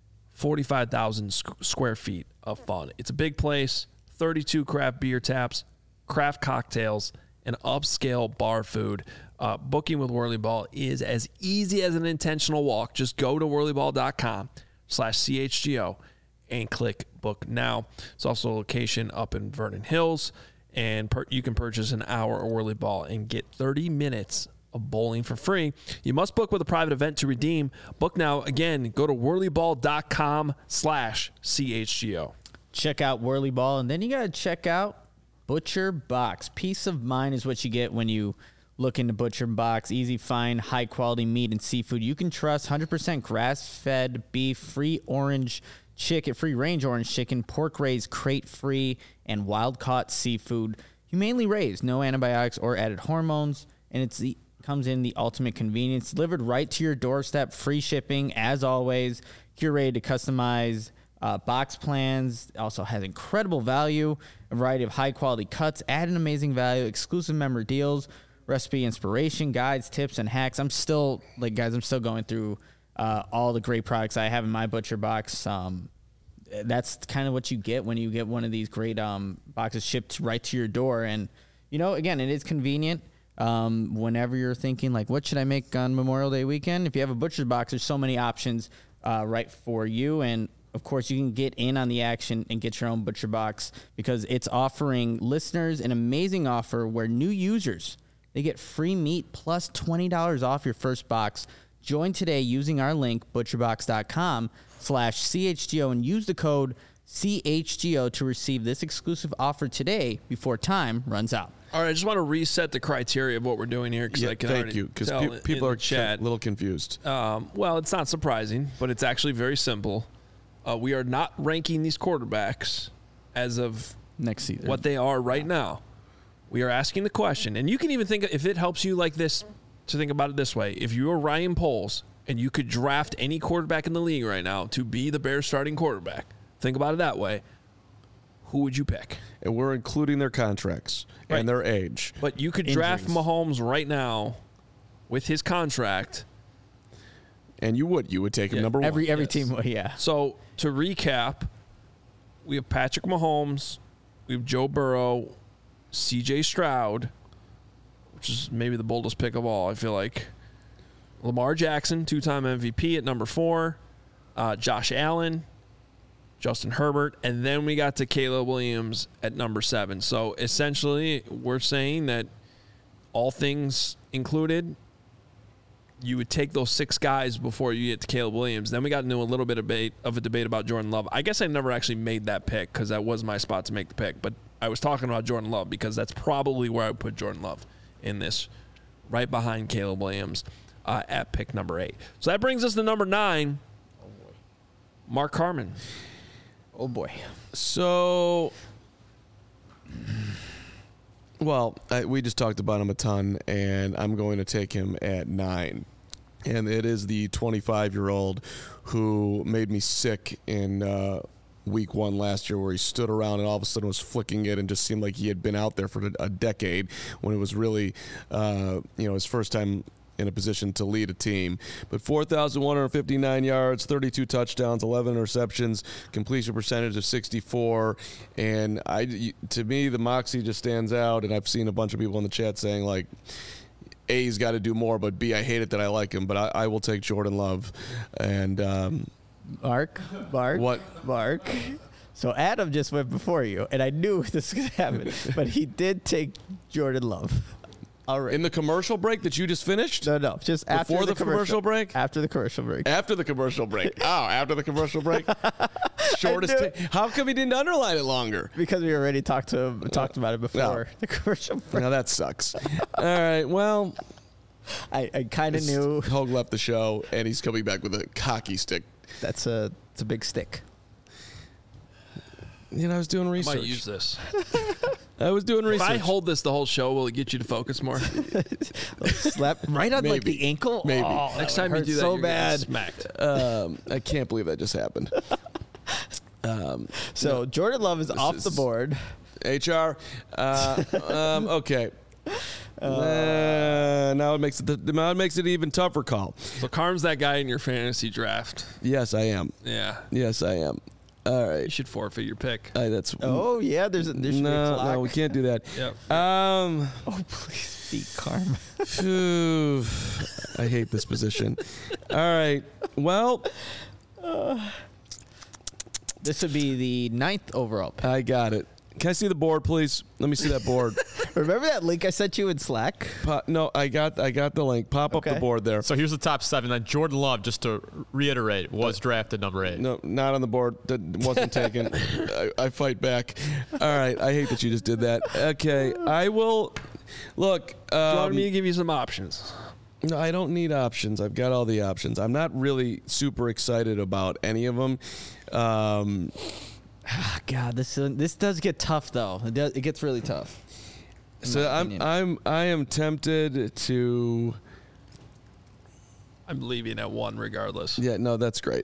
45,000 square feet of fun. It's a big place, 32 craft beer taps, craft cocktails, and upscale bar food. Booking with Whirly Ball is as easy as an intentional walk. Just go to whirlyball.com/CHGO and click book now. It's also a location up in Vernon Hills, and you can purchase an hour of Whirly Ball and get 30 minutes of bowling for free. You must book with a private event to redeem. Book now. Again, go to whirlyball.com/CHGO. Check out Whirly Ball, and then you got to check out Butcher Box. Peace of mind is what you get when you look into Butcher Box. Easy find, high quality meat and seafood you can trust. 100% grass-fed beef, free orange chicken, free range orange chicken, pork raised crate free, and wild caught seafood. Humanely raised, no antibiotics or added hormones, and it comes in the ultimate convenience. Delivered right to your doorstep, free shipping as always. Curated to customize box plans. Also has incredible value, a variety of high quality cuts, add an amazing value, exclusive member deals, recipe inspiration, guides, tips, and hacks. I'm still going through all the great products I have in my Butcher Box. That's kind of what you get when you get one of these great boxes shipped right to your door. And, again, it is convenient. Whenever you're thinking, like, what should I make on Memorial Day weekend? If you have a Butcher's Box, there's so many options right for you. And, of course, you can get in on the action and get your own Butcher Box because it's offering listeners an amazing offer where new users, they get free meat plus $20 off your first box. Join today using our link, butcherbox.com/CHGO, and use the code CHGO to receive this exclusive offer today before time runs out. All right, I just want to reset the criteria of what we're doing here because I can thank you, because people are chat a little confused. Well, it's not surprising, but it's actually very simple. We are not ranking these quarterbacks as of Next season. what they are right now. We are asking the question, and you can even think, if it helps you like this, to think about it this way. If you were Ryan Poles and you could draft any quarterback in the league right now to be the Bears starting quarterback, think about it that way, who would you pick? And we're including their contracts Right. and their age. But you could draft Injuries. Mahomes right now with his contract. And you would take him Yeah. number one. Every Yes. team, yeah. So to recap, we have Patrick Mahomes, we have Joe Burrow, CJ Stroud, which is maybe the boldest pick of all, I feel like. Lamar Jackson, 2-time MVP at number 4. Josh Allen, Justin Herbert, and then we got to Caleb Williams at number 7. So essentially, we're saying that all things included, you would take those 6 guys before you get to Caleb Williams. Then we got into a little bit of a debate about Jordan Love. I guess I never actually made that pick because that was my spot to make the pick. But I was talking about Jordan Love because that's probably where I would put Jordan Love in this, right behind Caleb Williams at pick number 8. So that brings us to number 9, Mark Carman. Oh, boy. So, well, we just talked about him a ton, and I'm going to take him at 9. And it is the 25-year-old who made me sick in week 1 last year, where he stood around and all of a sudden was flicking it and just seemed like he had been out there for a decade, when it was really his first time in a position to lead a team. But 4,159 yards, 32 touchdowns, 11 interceptions, completion percentage of 64. And to me, the moxie just stands out. And I've seen a bunch of people in the chat saying, like, A's got to do more, but B, I hate it that I like him. But I will take Jordan Love. And Mark. What? Mark. So Adam just went before you, and I knew this was going to happen, but he did take Jordan Love. All right. In the commercial break that you just finished? No, just after Before the commercial break? After the commercial break. After the commercial break. after the commercial break? Shortest. How come he didn't underline it longer? Because we already talked about it before the commercial break. Now that sucks. All right, well, I kind of knew Hogue left the show, and he's coming back with a cocky stick. it's a big stick. I was doing I research. might use this. I was doing If research. I hold this the whole show, will it get you to focus more? Slap right on like Maybe. the ankle. Maybe. Oh, Next that time would you do hurt that, so you're gonna bad. get smacked. I can't believe that just happened. So Jordan Love is off the is- board. HR. Okay. Now it makes it an even tougher call. So Carm's that guy in your fantasy draft. Yes, I am. Yeah. Yes, I am. All You right. should forfit your pick. That's Oh yeah, there should be a clock. no, we can't do that. Yep. Oh please, beat Carm. Phew. I hate this position. All right. Well, This would be the 9th overall pick. I got it. Can I see the board, please? Let me see that board. Remember that link I sent you in Slack? No, I got the link. Pop up Okay. the board there. So here's the top 7. Then Jordan Love, just to reiterate, was drafted number 8. No, not on the board. That wasn't taken. I fight back. All right. I hate that you just did that. Okay. I will. Look. Do you want me to give you some options? No, I don't need options. I've got all the options. I'm not really super excited about any of them. God, this does get tough though. It gets really tough. So I am tempted to. I'm leaving at 1 regardless. Yeah, no, that's great.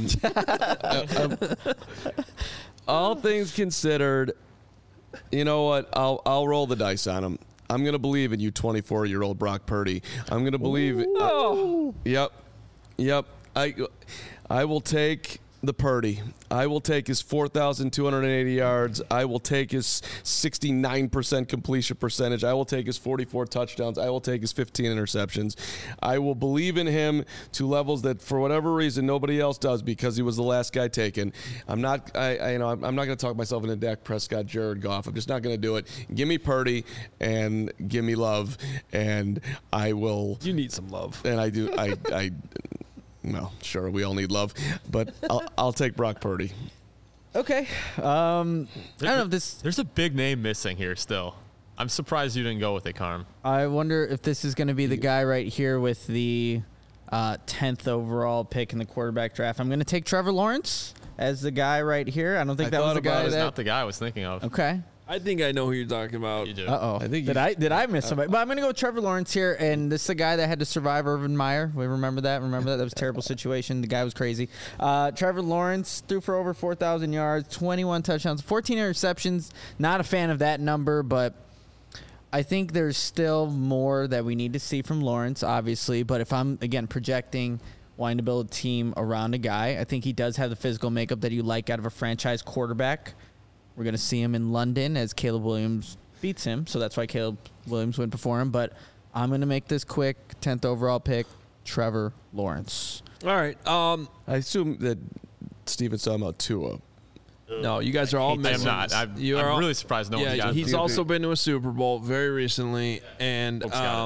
All things considered, you know what? I'll roll the dice on him. I'm gonna believe in you, 24-year-old Brock Purdy. I'm gonna believe. Yep. I will take. the Purdy. I will take his 4,280 yards. I will take his 69% completion percentage. I will take his 44 touchdowns. I will take his 15 interceptions. I will believe in him to levels that, for whatever reason, nobody else does because he was the last guy taken. I'm not going to talk myself into Dak Prescott, Jared Goff. I'm just not going to do it. Give me Purdy and give me love, and I will. You need some love. And I do. Well, sure, we all need love, but I'll take Brock Purdy. Okay. I don't know if this. There's a big name missing here still. I'm surprised you didn't go with it, Carm. I wonder if this is going to be the guy right here with the 10th overall pick in the quarterback draft. I'm going to take Trevor Lawrence as the guy right here. I don't think that was the guy. That's not the guy I was thinking of. Okay. I think I know who you're talking about. You do. Uh-oh. Did I miss somebody? But I'm going to go with Trevor Lawrence here, and this is the guy that had to survive Urban Meyer. We remember that? That was a terrible situation. The guy was crazy. Trevor Lawrence threw for over 4,000 yards, 21 touchdowns, 14 interceptions. Not a fan of that number, but I think there's still more that we need to see from Lawrence, obviously. But if I'm, again, projecting, wanting to build a team around a guy, I think he does have the physical makeup that you like out of a franchise quarterback. We're going to see him in London as Caleb Williams beats him, so that's why Caleb Williams went before him. But I'm going to make this quick. 10th overall pick, Trevor Lawrence. All right. I assume that Steven's talking about Tua. No, you guys are all I'm missing. not. I'm really surprised no one got he's also been to a Super Bowl very recently and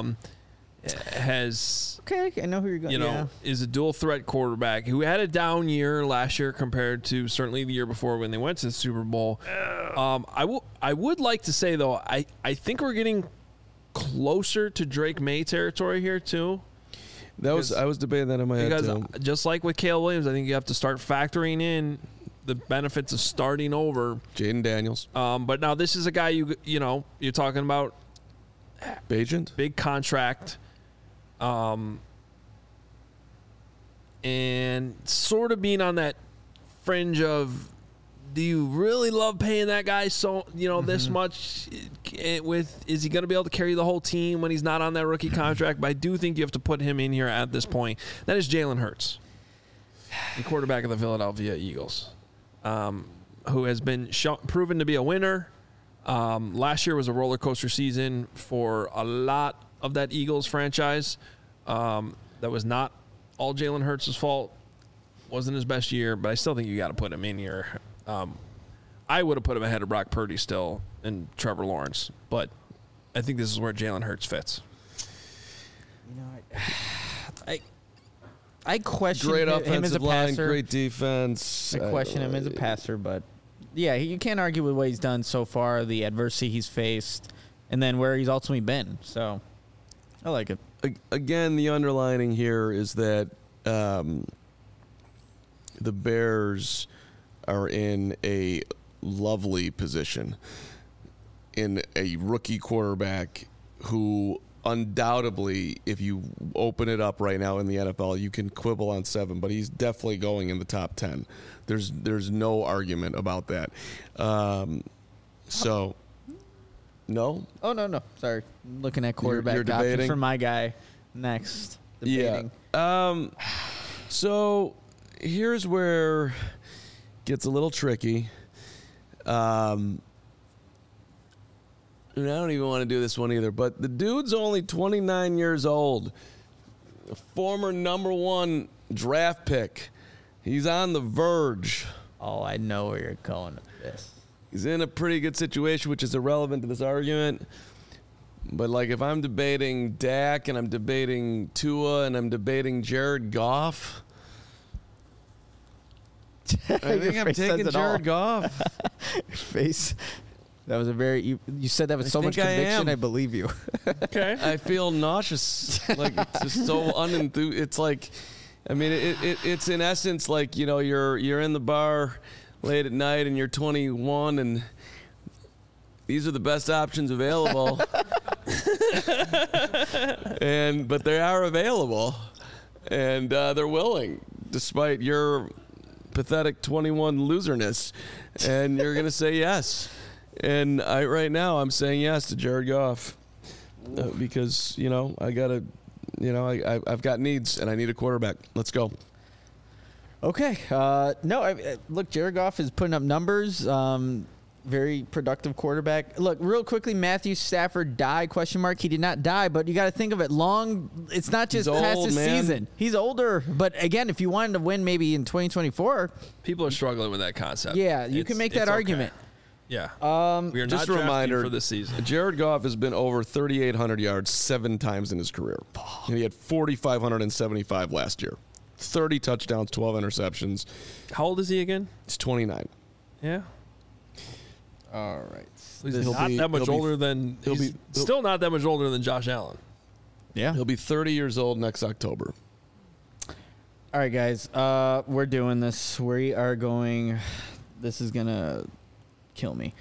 has... Okay, I know who you're going. Is a dual threat quarterback who had a down year last year compared to certainly the year before when they went to the Super Bowl. I would like to say though, I think we're getting closer to Drake May territory here too. I was debating that in my head too. Just like with Caleb Williams, I think you have to start factoring in the benefits of starting over. Jaden Daniels. But now this is a guy you're talking about. Bagent? Big contract. And sort of being on that fringe of, do you really love paying that guy this much? Is he going to be able to carry the whole team when he's not on that rookie contract? But I do think you have to put him in here at this point. That is Jalen Hurts, the quarterback of the Philadelphia Eagles, who has been proven to be a winner. Last year was a roller coaster season for a lot of that Eagles franchise. That was not all Jalen Hurts' fault. Wasn't his best year, but I still think you got to put him in here. I would have put him ahead of Brock Purdy still and Trevor Lawrence, but I think this is where Jalen Hurts fits. I question great him offensive as a line, passer. Great defense. I question him as a passer, but yeah, you can't argue with what he's done so far, the adversity he's faced, and then where he's ultimately been. So I like it. Again, the underlining here is that the Bears are in a lovely position in a rookie quarterback who undoubtedly, if you open it up right now in the NFL, you can quibble on 7, but he's definitely going in the top 10. There's no argument about that. So, no? Oh, no. Sorry. I'm looking at quarterback You're options debating? for my guy next. Debating. Yeah. So here's where it gets a little tricky. And I don't even want to do this one either, but the dude's only 29 years old. A former number 1 draft pick. He's on the verge. Oh, I know where you're going with this. He's in a pretty good situation, which is irrelevant to this argument. But, like, if I'm debating Dak and I'm debating Tua and I'm debating Jared Goff, I think I'm taking Jared Goff. Your face. That was a very... You said that with so much conviction, I believe you. Okay. I feel nauseous. Like, it's just so unenthused. It's like... I mean, it's in essence like, you're in the bar late at night and you're 21 and these are the best options available. But they are available and they're willing despite your pathetic 21 loserness, and you're going to say yes. And right now I'm saying yes to Jared Goff because, I got to... I've got needs, and I need a quarterback. Let's go. Okay. Look, Jared Goff is putting up numbers. Very productive quarterback. Look, real quickly, Matthew Stafford died, ? He did not die, but you got to think of it long. It's not just He's past old, the man. season. He's older. But again, if you wanted to win maybe in 2024, People are struggling with that concept. yeah, you can make that it's okay. argument. Yeah. We are Just not a reminder for this season. Jared Goff has been over 3,800 yards 7 times in his career. And he had 4,575 last year. 30 touchdowns, 12 interceptions. How old is he again? He's 29. Yeah. All right. He's He'll not be- that much he'll be- older than. he'll He's be- still not that much older than Josh Allen. Yeah. He'll be 30 years old next October. All right, guys. We're doing this. We are going. This is gonna kill me.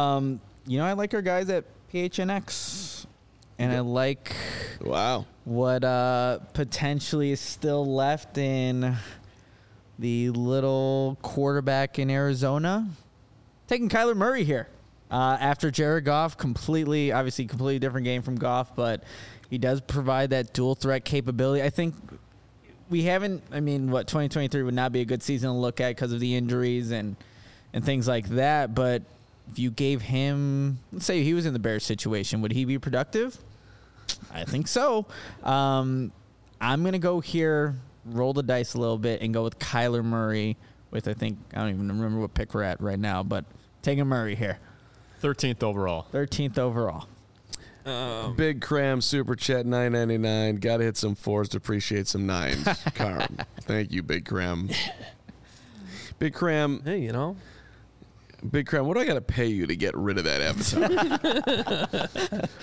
I like our guys at PHNX, and I like Wow. what potentially is still left in the little quarterback in Arizona. Taking Kyler Murray here after Jared Goff. Completely different game from Goff, but he does provide that dual threat capability. I think we haven't. 2023 would not be a good season to look at because of the injuries and things like that. But if you gave him, let's say he was in the Bears situation, would he be productive? I think so. I'm going to go here, roll the dice a little bit, and go with Kyler Murray with, I don't even remember what pick we're at right now, but taking Murray here. 13th overall. 13th overall. Big Cram Super Chat $9.99. Got to hit some 4s to appreciate some 9s. Carm. Thank you, Big Cram. Big Cram. Hey, Big Cram, what do I got to pay you to get rid of that avatar?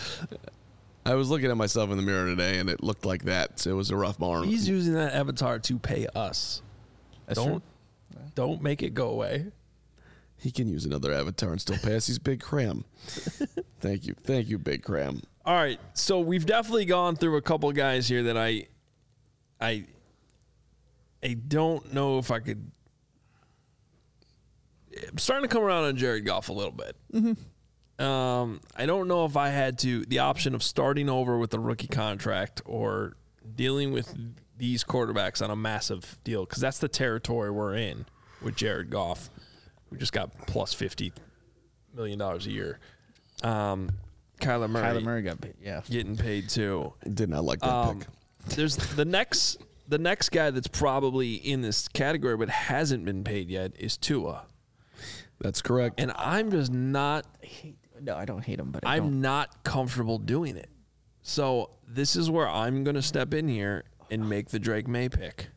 I was looking at myself in the mirror today, and it looked like that. So it was a rough morning. he's using that avatar to pay us. That's Don't make it go away. He can use another avatar and still pass. He's Big Cram. Thank you, Big Cram. All right, so we've definitely gone through a couple guys here that I don't know if I could. I'm starting to come around on Jared Goff a little bit. I don't know if I had the option of starting over with a rookie contract or dealing with these quarterbacks on a massive deal, because that's the territory we're in with Jared Goff, who just got plus $50 million a year. Kyler Murray got paid, yeah. getting paid too. Did not like that pick. There's the next guy that's probably in this category but hasn't been paid yet is Tua. That's correct. And I'm just not No, I don't hate him, but I'm not comfortable doing it. So this is where I'm going to step in here and make the Drake May pick.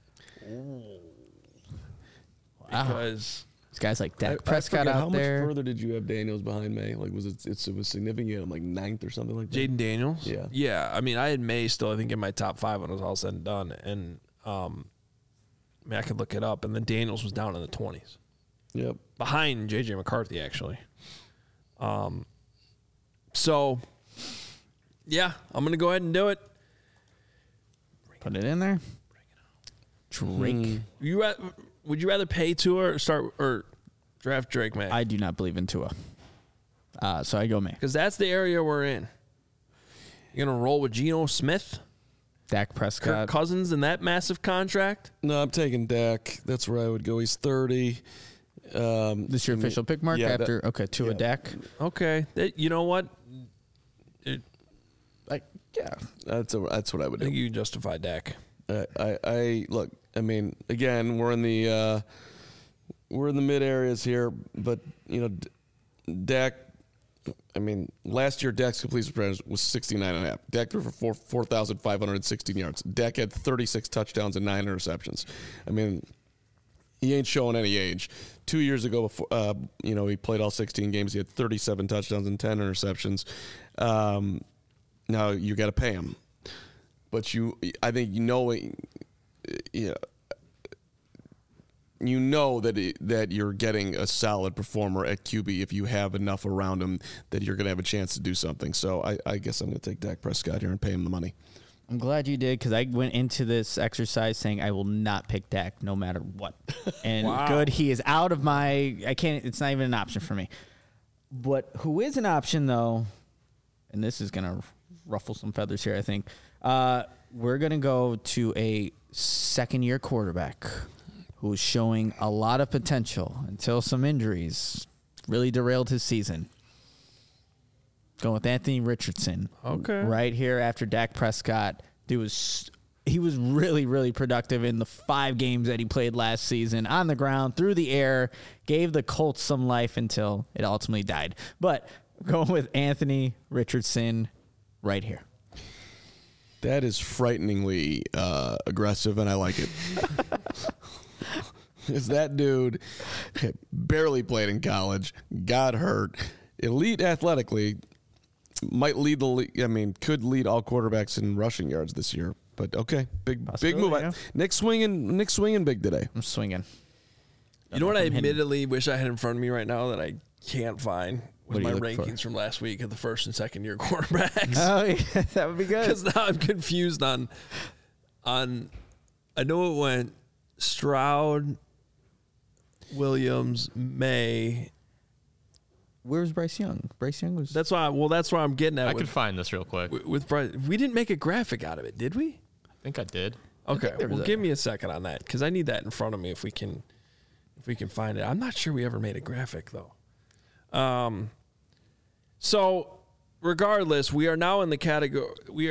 Because these guys like Dak I Prescott forget, out how there. much further did you have Daniels behind May? Like, was it was significant, like 9th or something like that? Jaden Daniels. Yeah. Yeah. I mean, I had May still, I think, in my top 5 when it was all said and done. And I could look it up. And then Daniels was down in the 20s. Yep. Behind J.J. McCarthy, actually. So, yeah, I'm going to go ahead and do it. Put it in there. Drake. Would you rather pay Tua or draft Drake May? I do not believe in Tua. So I go May. Because that's the area we're in. You're going to roll with Geno Smith, Dak Kirk Prescott. Cousins in that massive contract? No, I'm taking Dak. That's where I would go. He's 30. This is your official pick, Mark? yeah, After Tua yeah. Dak. Okay. You know what? Yeah. That's what I would I think do. you justify Dak. I look. I mean, again, we're in the mid areas here, but Dak. I mean, last year Dak's completion percentage was 69.5. Dak threw for 4,516 yards. Dak had 36 touchdowns and 9 interceptions. I mean, he ain't showing any age. 2 years ago, before he played all 16 games. He had 37 touchdowns and 10 interceptions. Now you got to pay him, but I think that you're getting a solid performer at QB if you have enough around him that you're going to have a chance to do something. So I guess I'm going to take Dak Prescott here and pay him the money. I'm glad you did, because I went into this exercise saying I will not pick Dak no matter what. And good, he is out of I can't, it's not even an option for me. But who is an option, though, and this is going to ruffle some feathers here, I think. We're going to go to a second-year quarterback. who was showing a lot of potential until some injuries really derailed his season. Going with Anthony Richardson. Okay. Right here after Dak Prescott. He was really, really productive in the 5 games that he played last season. On the ground, through the air, gave the Colts some life until it ultimately died. But going with Anthony Richardson right here. That is frighteningly aggressive, and I like it. Because that dude barely played in college, got hurt, elite athletically, might lead the league. I mean, could lead all quarterbacks in rushing yards this year. But okay, big move. Yeah. Nick swinging big today. I'm swinging. You know what I admittedly wish I had in front of me right now that I can't find with What are my you looking rankings for? from last week of the first and second year quarterbacks. Oh, yeah, that would be good. Because now I'm confused on. I know it went Stroud, Williams, May. Where's Bryce Young? Bryce Young was. That's why. Well, that's where I'm getting at. I with, could find this real quick. with Bryce. We didn't make a graphic out of it, did we? I think I did. Okay, there was well, a- give me a second on that because I need that in front of me if we can find it. I'm not sure we ever made a graphic though. So regardless, we are now in the category.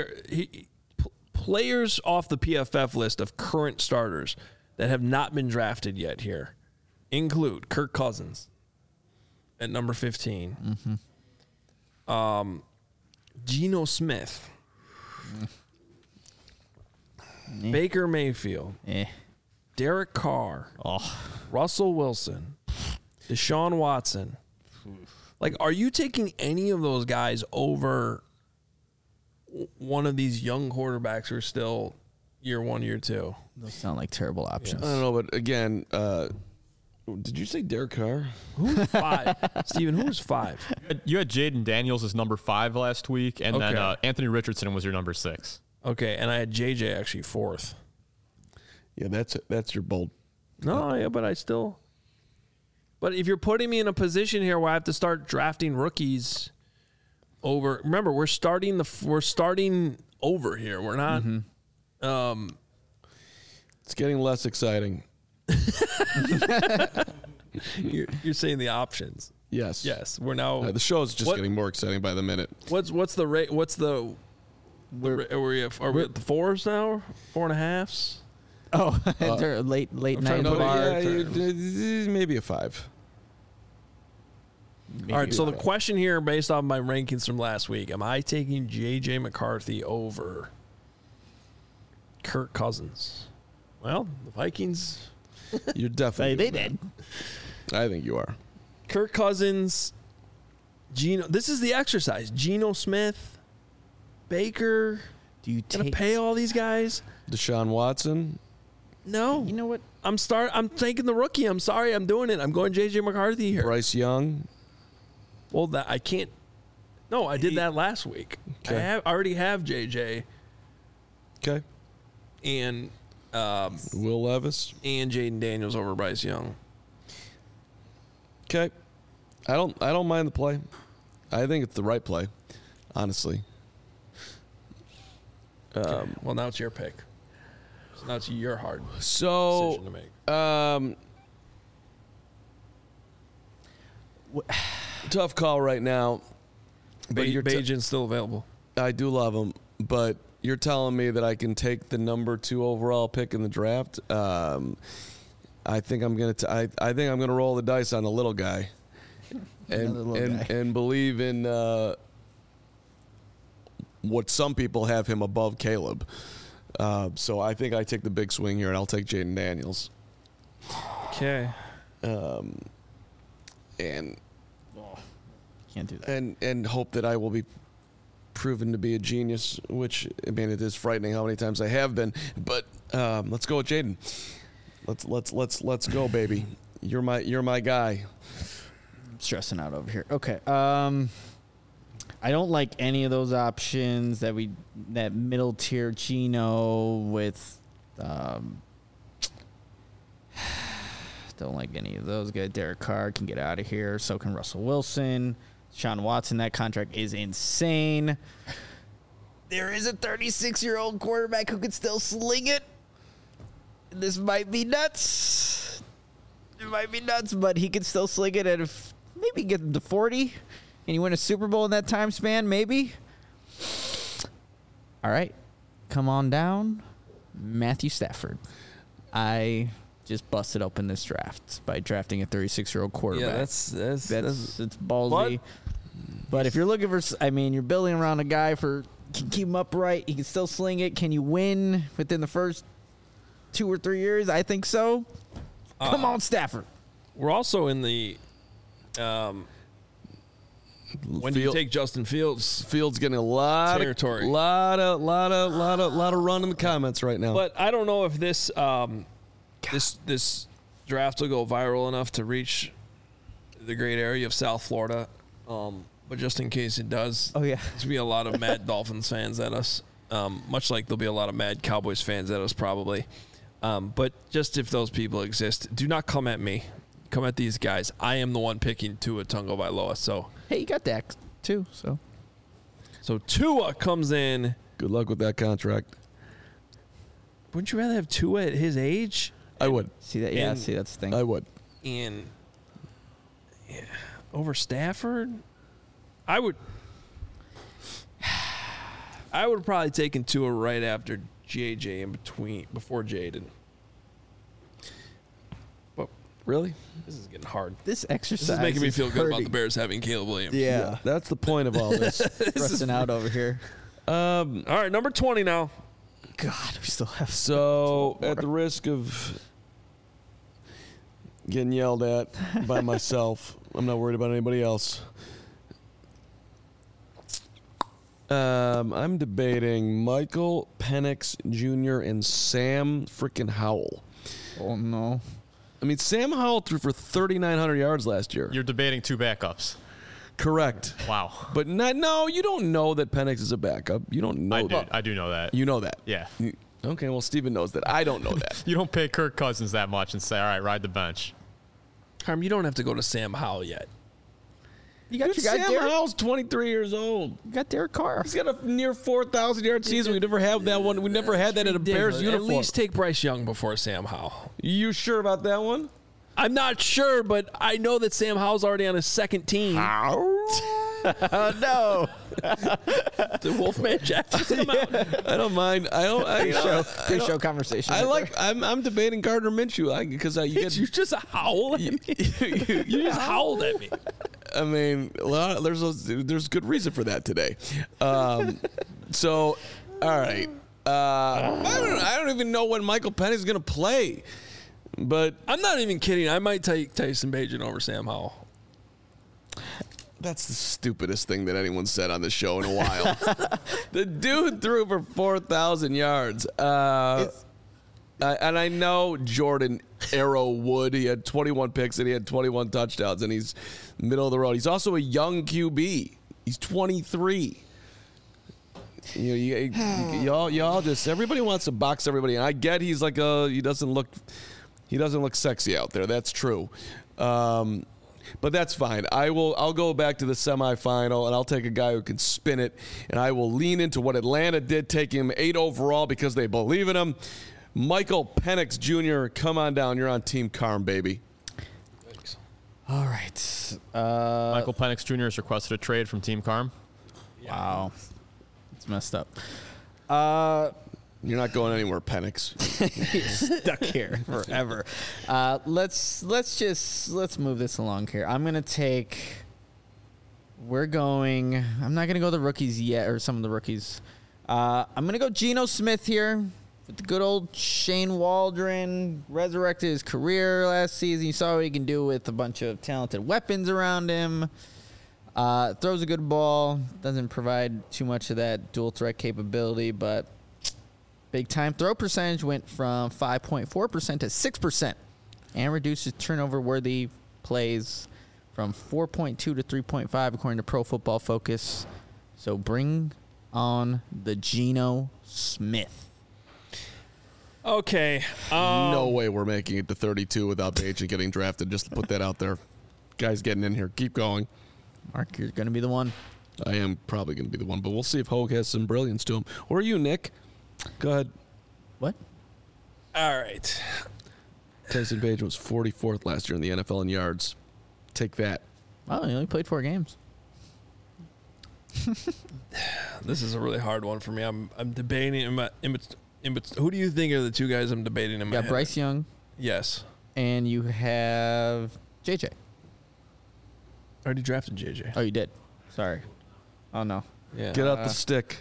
Players off the PFF list of current starters that have not been drafted yet here include Kirk Cousins at number 15. Geno Smith. Baker Mayfield, Derek Carr, Russell Wilson, Deshaun Watson. Like, are you taking any of those guys over one of these young quarterbacks who are still year 1, year 2? Those sound like terrible options. I don't know, but again, did you say Derek Carr? Who's 5? Steven, who's 5? You had Jaden Daniels as number 5 last week, and then Okay. Anthony Richardson was your number 6. Okay, and I had JJ actually 4th. Yeah, that's your bold. No, yeah, but I still. But if you're putting me in a position here where I have to start drafting rookies over, remember we're starting over here. We're not. It's getting less exciting. You're saying the options. Yes. Yes, we're now. The show is just What- getting more exciting by the minute. What's the rate? Are we at the 4s now? 4.5s? Oh, they're late trying night to put it- bar. Maybe a 5. Maybe All right. So the five. question here, based on my rankings from last week, am I taking JJ McCarthy over Kirk Cousins? Well, the Vikings. You're definitely. They doing did. that. I think you are. Kirk Cousins, Geno. This is the exercise. Geno Smith, Baker. Do you Gonna take? pay all these guys? Deshaun Watson. No. You know what? I'm taking the rookie. I'm sorry. I'm doing it. I'm going JJ McCarthy here. Bryce Young. Well, that I can't. No, I did that last week. Okay. I already have JJ Okay. and Will Levis. and Jaden Daniels over Bryce Young. Okay. I don't mind the play. I think it's the right play, honestly. Well, now it's your pick. So now it's your hard So, decision to make. Tough call right now. But you're Bajan's still available. I do love him, but you're telling me that I can take the number 2 overall pick in the draft. I think I'm gonna. I think I'm gonna roll the dice on the little guy, Another little guy. and believe in what some people have him above Caleb. So I think I take the big swing here, and I'll take Jaden Daniels. Okay. And Can't do that. and hope that I will be proven to be a genius, which, I mean, it is frightening how many times I have been. But let's go with Jaden. Let's go, baby. You're my guy. I'm stressing out over here. Okay. I don't like any of those options that middle tier Geno with. Don't like any of those guys. Derek Carr can get out of here. So can Russell Wilson. Sean Watson, that contract is insane. There is a 36-year-old quarterback who can still sling it. This might be nuts. It might be nuts, but he could still sling it at maybe get him to 40. And you win a Super Bowl in that time span, maybe. All right. Come on down. Matthew Stafford. I just busted open this draft by drafting a 36-year-old quarterback. Yeah, that's it's ballsy. But if you're looking for, you're building around a guy can keep him upright. He can still sling it. Can you win within the first 2 or 3 years? I think so. Come on, Stafford. We're also in the. When do you take Justin Fields? Fields getting a lot territory, lot of run in the comments right now. But I don't know if this this draft will go viral enough to reach the great area of South Florida. But just in case it does, oh yeah, there's gonna be a lot of mad Dolphins fans at us. Much like there'll be a lot of mad Cowboys fans at us probably. But just if those people exist, do not come at me. Come at these guys. I am the one picking Tua Tagovailoa. So hey, you got Dak too. So Tua comes in. Good luck with that contract. Wouldn't you rather have Tua at his age? I would. See that? Yeah, see that's the thing. I would. Over Stafford, I would have probably taken Tua right after JJ before Jaden. But really, this is getting hard. This exercise This is making me feel good about hurting. the Bears having Caleb Williams. Yeah. That's the point of all this. Stressing out over here. All right, number 20 now. God, we still have So, at the risk of getting yelled at by myself, I'm not worried about anybody else. I'm debating Michael Penix Jr. and Sam freaking Howell. Oh no! I mean, Sam Howell threw for 3,900 yards last year. You're debating two backups. Correct. Wow. But no, you don't know that Penix is a backup. You don't know that. I do know that. You know that. Yeah. Okay, well, Steven knows that. I don't know that. You don't pay Kirk Cousins that much and say, all right, ride the bench. Carm, you don't have to go to Sam Howell yet. You got Dude, your guy Sam Derek. Howell's 23 years old. You got Derek Carr. He's got a near 4,000 yard season. We never have that one. We never had that in a Bears uniform. At least take Bryce Young before Sam Howell. You sure about that one? I'm not sure, but I know that Sam Howell's already on his second team. Oh no! The Wolfman Jack just come out. I don't mind. Pre-show conversation. I'm debating Gardner Minshew because you Did you just howl at me? You just howled at me. I mean, there's good reason for that today. So, all right. I don't even know when Michael Penix is going to play, but I'm not even kidding. I might take Tyson Bagent over Sam Howell. that's the stupidest thing that anyone said on the show in a while. The dude threw for 4,000 yards. And I know Jordan Arrow Wood. He had 21 picks and he had 21 touchdowns, and he's middle of the road. He's also a young QB. He's 23. Y'all just everybody wants to box everybody. And I get he doesn't look sexy out there. That's true. But that's fine. I'll go back to the semifinal, and I'll take a guy who can spin it, and I will lean into what Atlanta did, take him 8 overall because they believe in him. Michael Penix Jr., come on down. You're on Team Carm, baby. Thanks. All right. Michael Penix Jr. has requested a trade from Team Carm. Wow. It's messed up. You're not going anywhere, Penix. He's stuck here forever. Let's move this along here. I'm not gonna go the rookies yet, or some of the rookies. I'm gonna go Geno Smith here with the good old Shane Waldron. Resurrected his career last season. You saw what he can do with a bunch of talented weapons around him. Throws a good ball. Doesn't provide too much of that dual threat capability, but big time throw percentage went from 5.4% to 6%, and reduces turnover worthy plays from 4.2 to 3.5 according to Pro Football Focus. So bring on the Geno Smith. Okay. No way we're making it to 32 without Bagent getting drafted. Just to put that out there. Guys getting in here. Keep going. Mark, you're going to be the one. I am probably going to be the one, but we'll see if Hogue has some brilliance to him. Or you, Nick. Go ahead. What? All right. Tyson Bagent was 44th last year in the NFL in yards. Take that. Oh, he only played 4 games. This is a really hard one for me. I'm debating who do you think are the two guys I'm debating in my You got head? Bryce Young, Yes. and you have JJ. I already drafted JJ. Oh, you did. Sorry. Oh, no. Yeah. Get out the stick.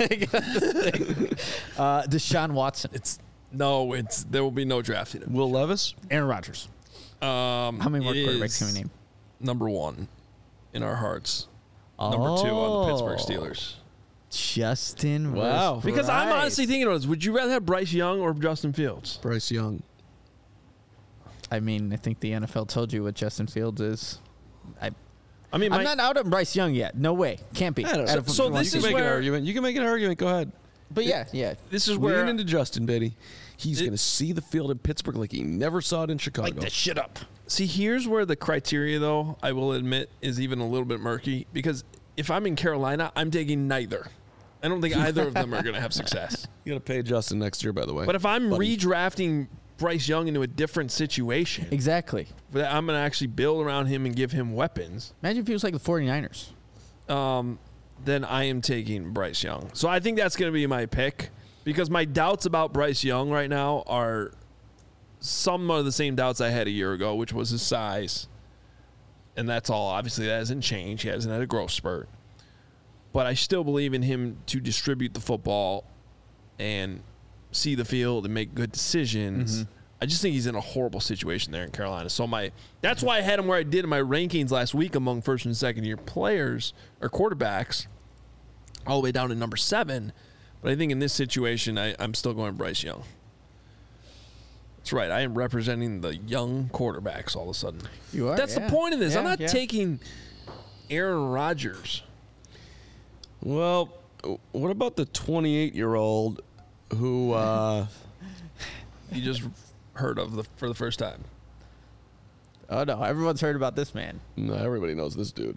Deshaun Watson. There will be no drafting him. Will Levis? Aaron Rodgers. How many more It quarterbacks can we is name? Number 1 in our hearts. Number 2 on the Pittsburgh Steelers. Justin. Wow. versus Because I'm Bryce. honestly thinking about this. Would you rather have Bryce Young or Justin Fields? Bryce Young. I mean, I think the NFL told you what Justin Fields is. I mean, I'm not out on Bryce Young yet. No way. Can't be. I don't know. Out of- So you this can is make where- an argument. You can make an argument. Go ahead. But yeah. this is where Lean into Justin, Biddy. He's going to see the field in Pittsburgh like he never saw it in Chicago. shit up. See, here's where the criteria, though, I will admit, is even a little bit murky. Because if I'm in Carolina, I'm taking neither. I don't think either of them are going to have success. You got to pay Justin next year, by the way. But if I'm Buddy. redrafting Bryce Young into a different situation, Exactly. that I'm going to actually build around him and give him weapons, Imagine if he was like the 49ers. then I am taking Bryce Young. So I think that's going to be my pick. Because my doubts about Bryce Young right now are some of the same doubts I had a year ago, which was his size. And that's all. Obviously, that hasn't changed. He hasn't had a growth spurt. But I still believe in him to distribute the football and see the field and make good decisions. I just think he's in a horrible situation there in Carolina. So that's why I had him where I did in my rankings last week among first and second year players or quarterbacks, all the way down to number 7. But I think in this situation, I'm still going Bryce Young. That's right. I am representing the young quarterbacks all of a sudden. You are. That's yeah. the point of this. I'm Yeah, not yeah. taking Aaron Rodgers. Well, what about the 28-year-old who You just heard of for the first time. Oh, no. Everyone's heard about this man. no, everybody knows this dude.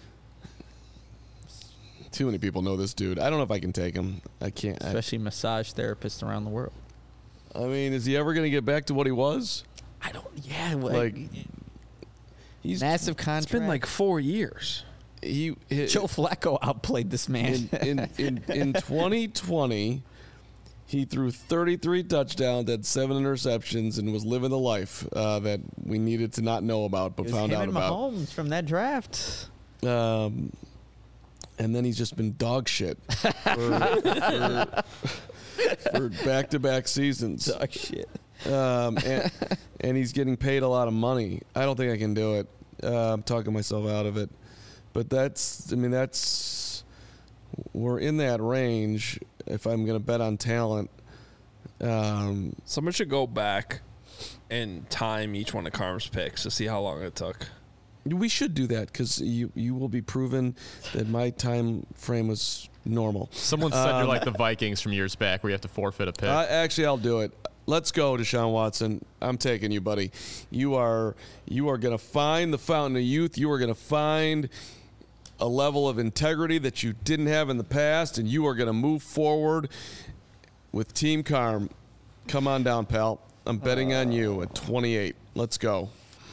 Too many people know this dude. I don't know if I can take him. I can't. Especially massage therapists around the world. I mean, is he ever going to get back to what he was? I don't. Yeah. Like, he's massive contract. It's been like 4 years. he Joe Flacco outplayed this man. in 2020. He threw 33 touchdowns, had 7 interceptions, and was living the life that we needed to not know about, but It was found him out and about. Mahomes from that draft. And then he's just been dog shit for back-to-back seasons. Dog shit. And he's getting paid a lot of money. I don't think I can do it. I'm talking myself out of it. But we're in that range if I'm going to bet on talent. Someone should go back and time each one of Carm's picks to see how long it took. We should do that because you will be proven that my time frame was normal. Someone said you're like the Vikings from years back where you have to forfeit a pick. Actually, I'll do it. Let's go, Deshaun Watson. I'm taking you, buddy. You are going to find the fountain of youth. You are going to find a level of integrity that you didn't have in the past, and you are going to move forward with Team Carm. Come on down, pal. I'm betting on you at 28. Let's go.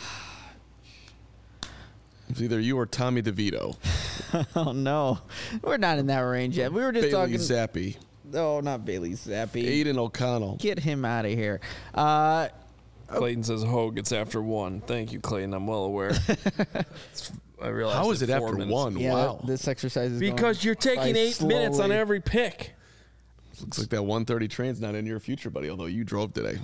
It's either you or Tommy DeVito. Oh no, we're not in that range yet. We were just Bailey talking. Zappi. No, not Bailey Zappi. Aiden O'Connell. Get him out of here. Clayton says Hogue, it's after 1. Thank you, Clayton. I'm well aware. I realized How is it 4 after minutes. 1? Yeah, Wow. this exercise is Because going you're taking by 8 minutes on slowly. every pick. Looks like that 1:30 train's not in your future, buddy, although you drove today.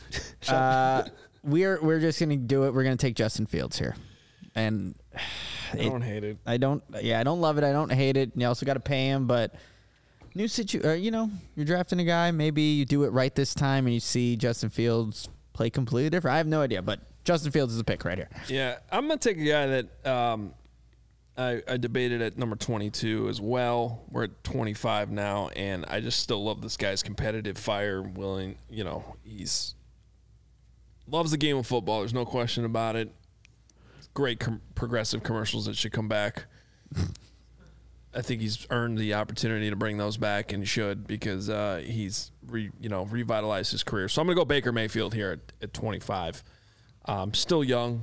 We're just gonna do it. We're gonna take Justin Fields here, and I don't hate it. I don't love it. I don't hate it. You also got to pay him, but new you're drafting a guy. Maybe you do it right this time, and you see Justin Fields play completely different. I have no idea, but Justin Fields is a pick right here. Yeah, I'm going to take a guy that I debated at number 22 as well. We're at 25 now, and I just still love this guy's competitive fire, willing, he's loves the game of football. There's no question about it. Great progressive commercials that should come back. I think he's earned the opportunity to bring those back and should because he's revitalized his career. So I'm going to go Baker Mayfield here at 25. Still young.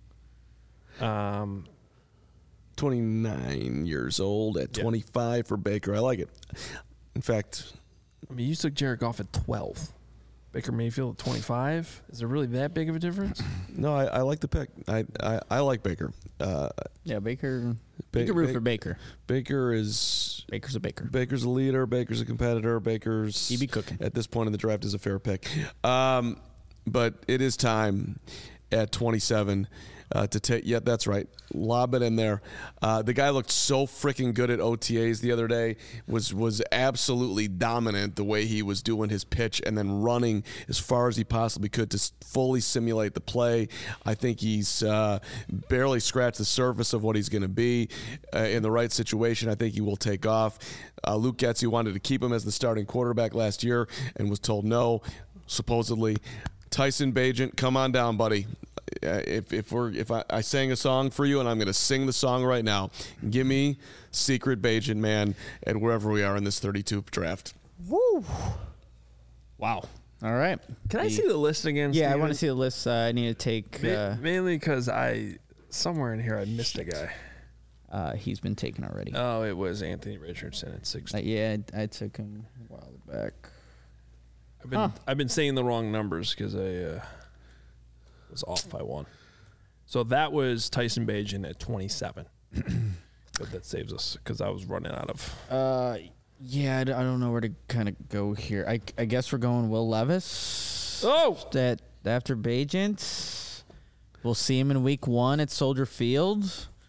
29 years old at 25 for Baker. I like it. In fact, I mean, you took Jared Goff at 12. Baker Mayfield at 25. Is there really that big of a difference? no, I like the pick. I like Baker. Yeah, Baker. You can root for Baker. Baker's a Baker. Baker's a leader. Baker's a competitor. Baker's He be cooking. at this point in the draft is a fair pick. But it is time at 27 to take. Yeah, that's right. Lob it in there. The guy looked so freaking good at OTAs the other day. Was absolutely dominant the way he was doing his pitch and then running as far as he possibly could to fully simulate the play. I think he's barely scratched the surface of what he's going to be in the right situation. I think he will take off. Luke Getsy wanted to keep him as the starting quarterback last year and was told no, supposedly. Tyson Bagent, come on down, buddy. If I sang a song for you, and I'm going to sing the song right now, give me Secret Bagent, man, at wherever we are in this 32 draft. Woo! Wow. All right. Can I see the list again? Yeah, I Steven? want to see the list. I need to take. Mainly because somewhere in here I missed a guy. He's been taken already. Oh, it was Anthony Richardson at 16. Yeah, I took him a while back. I've been saying the wrong numbers because I was off by one. So that was Tyson Bagent at 27. But that saves us because I was running out of. Yeah, I don't know where to kind of go here. I guess we're going Will Levis. Oh, That after Bagent, we'll see him in Week 1 at Soldier Field.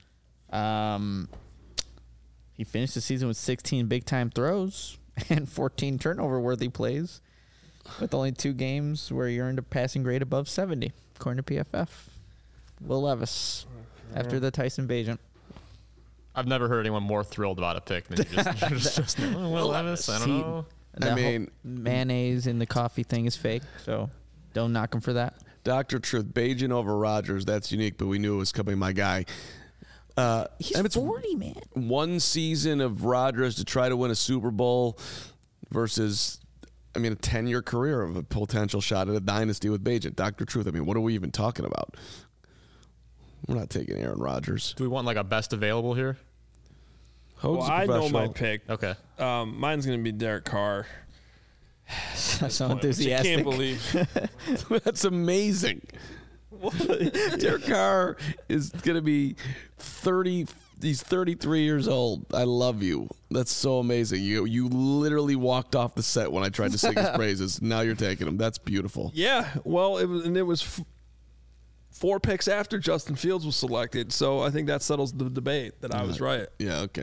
He finished the season with 16 big time throws and 14 turnover worthy plays, with only 2 games where he earned a passing grade above 70, according to PFF. Will Levis after the Tyson Bagent. I've never heard anyone more thrilled about a pick than you just Will Levis. I don't know. That whole mayonnaise in the coffee thing is fake, so don't knock him for that. Dr. Truth, Bagent over Rodgers, that's unique, but we knew it was coming, my guy. He's 40, man. One season of Rodgers to try to win a Super Bowl versus, a 10-year career of a potential shot at a dynasty with Bagent. Dr. Truth, what are we even talking about? We're not taking Aaron Rodgers. Do we want like a best available here? well, I know my pick. Okay. Mine's going to be Derek Carr. So I enthusiastic. can't believe. That's amazing. Derek Carr is going to be 30. He's 33 years old. I love you. That's so amazing. You literally walked off the set when I tried to sing his praises. Now you're taking him. That's beautiful. Yeah, well, it was 4 picks after Justin Fields was selected, so I think that settles the debate that I was right. Yeah, okay.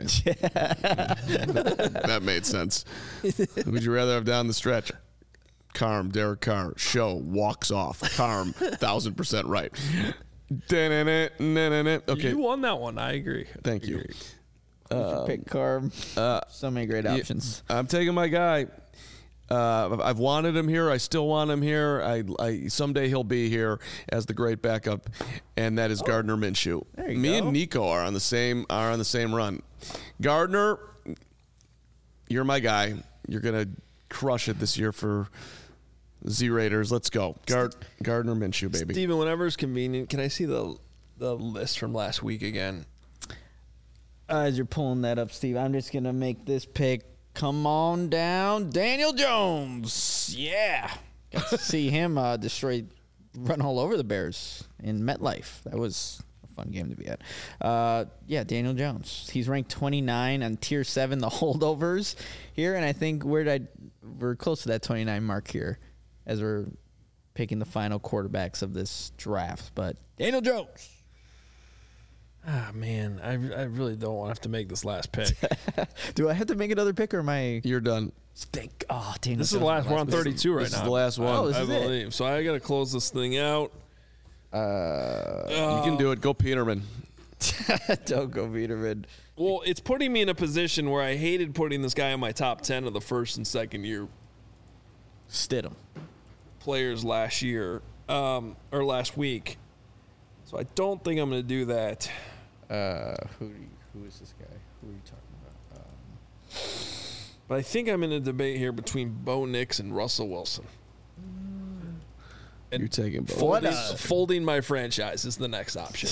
That made sense. Would you rather have down the stretch? Carm, Derek Carr, show, walks off. Carm, 1,000% right. Okay. You won that one. I agree. Thank you. Pick Carb. So many great options. I'm taking my guy. I've wanted him here. I still want him here. I someday he'll be here as the great backup, and that is Gardner Minshew. There you Me go. and Nico are on the same run. Gardner, you're my guy. You're gonna crush it this year for Z Raiders. Let's go, Gardner Minshew, baby. Steven, whenever it's convenient, can I see the list from last week again? As you're pulling that up, Steve, I'm just going to make this pick. Come on down. Daniel Jones. Yeah. Got to see him run all over the Bears in MetLife. That was a fun game to be at. Yeah, Daniel Jones. He's ranked 29 on Tier 7, the holdovers here. And I think we're close to that 29 mark here as we're picking the final quarterbacks of this draft. But Daniel Jones. Ah, man, I really don't want to have to make this last pick. Do I have to make another pick or am I? You're done. Dang, This is the last. We're on 32 right now. This is the last one. Oh, this I is it. believe. So I got to close this thing out. You can do it. Go Peterman. Don't go Peterman. Well, it's putting me in a position where I hated putting this guy in my top 10 of the first and second year Stidham. players last year or last week. So I don't think I'm going to do that. Who is this guy? Who are you talking But I think I'm in a debate here between Bo Nix and Russell Wilson. And You're taking both. folding my franchise is the next option.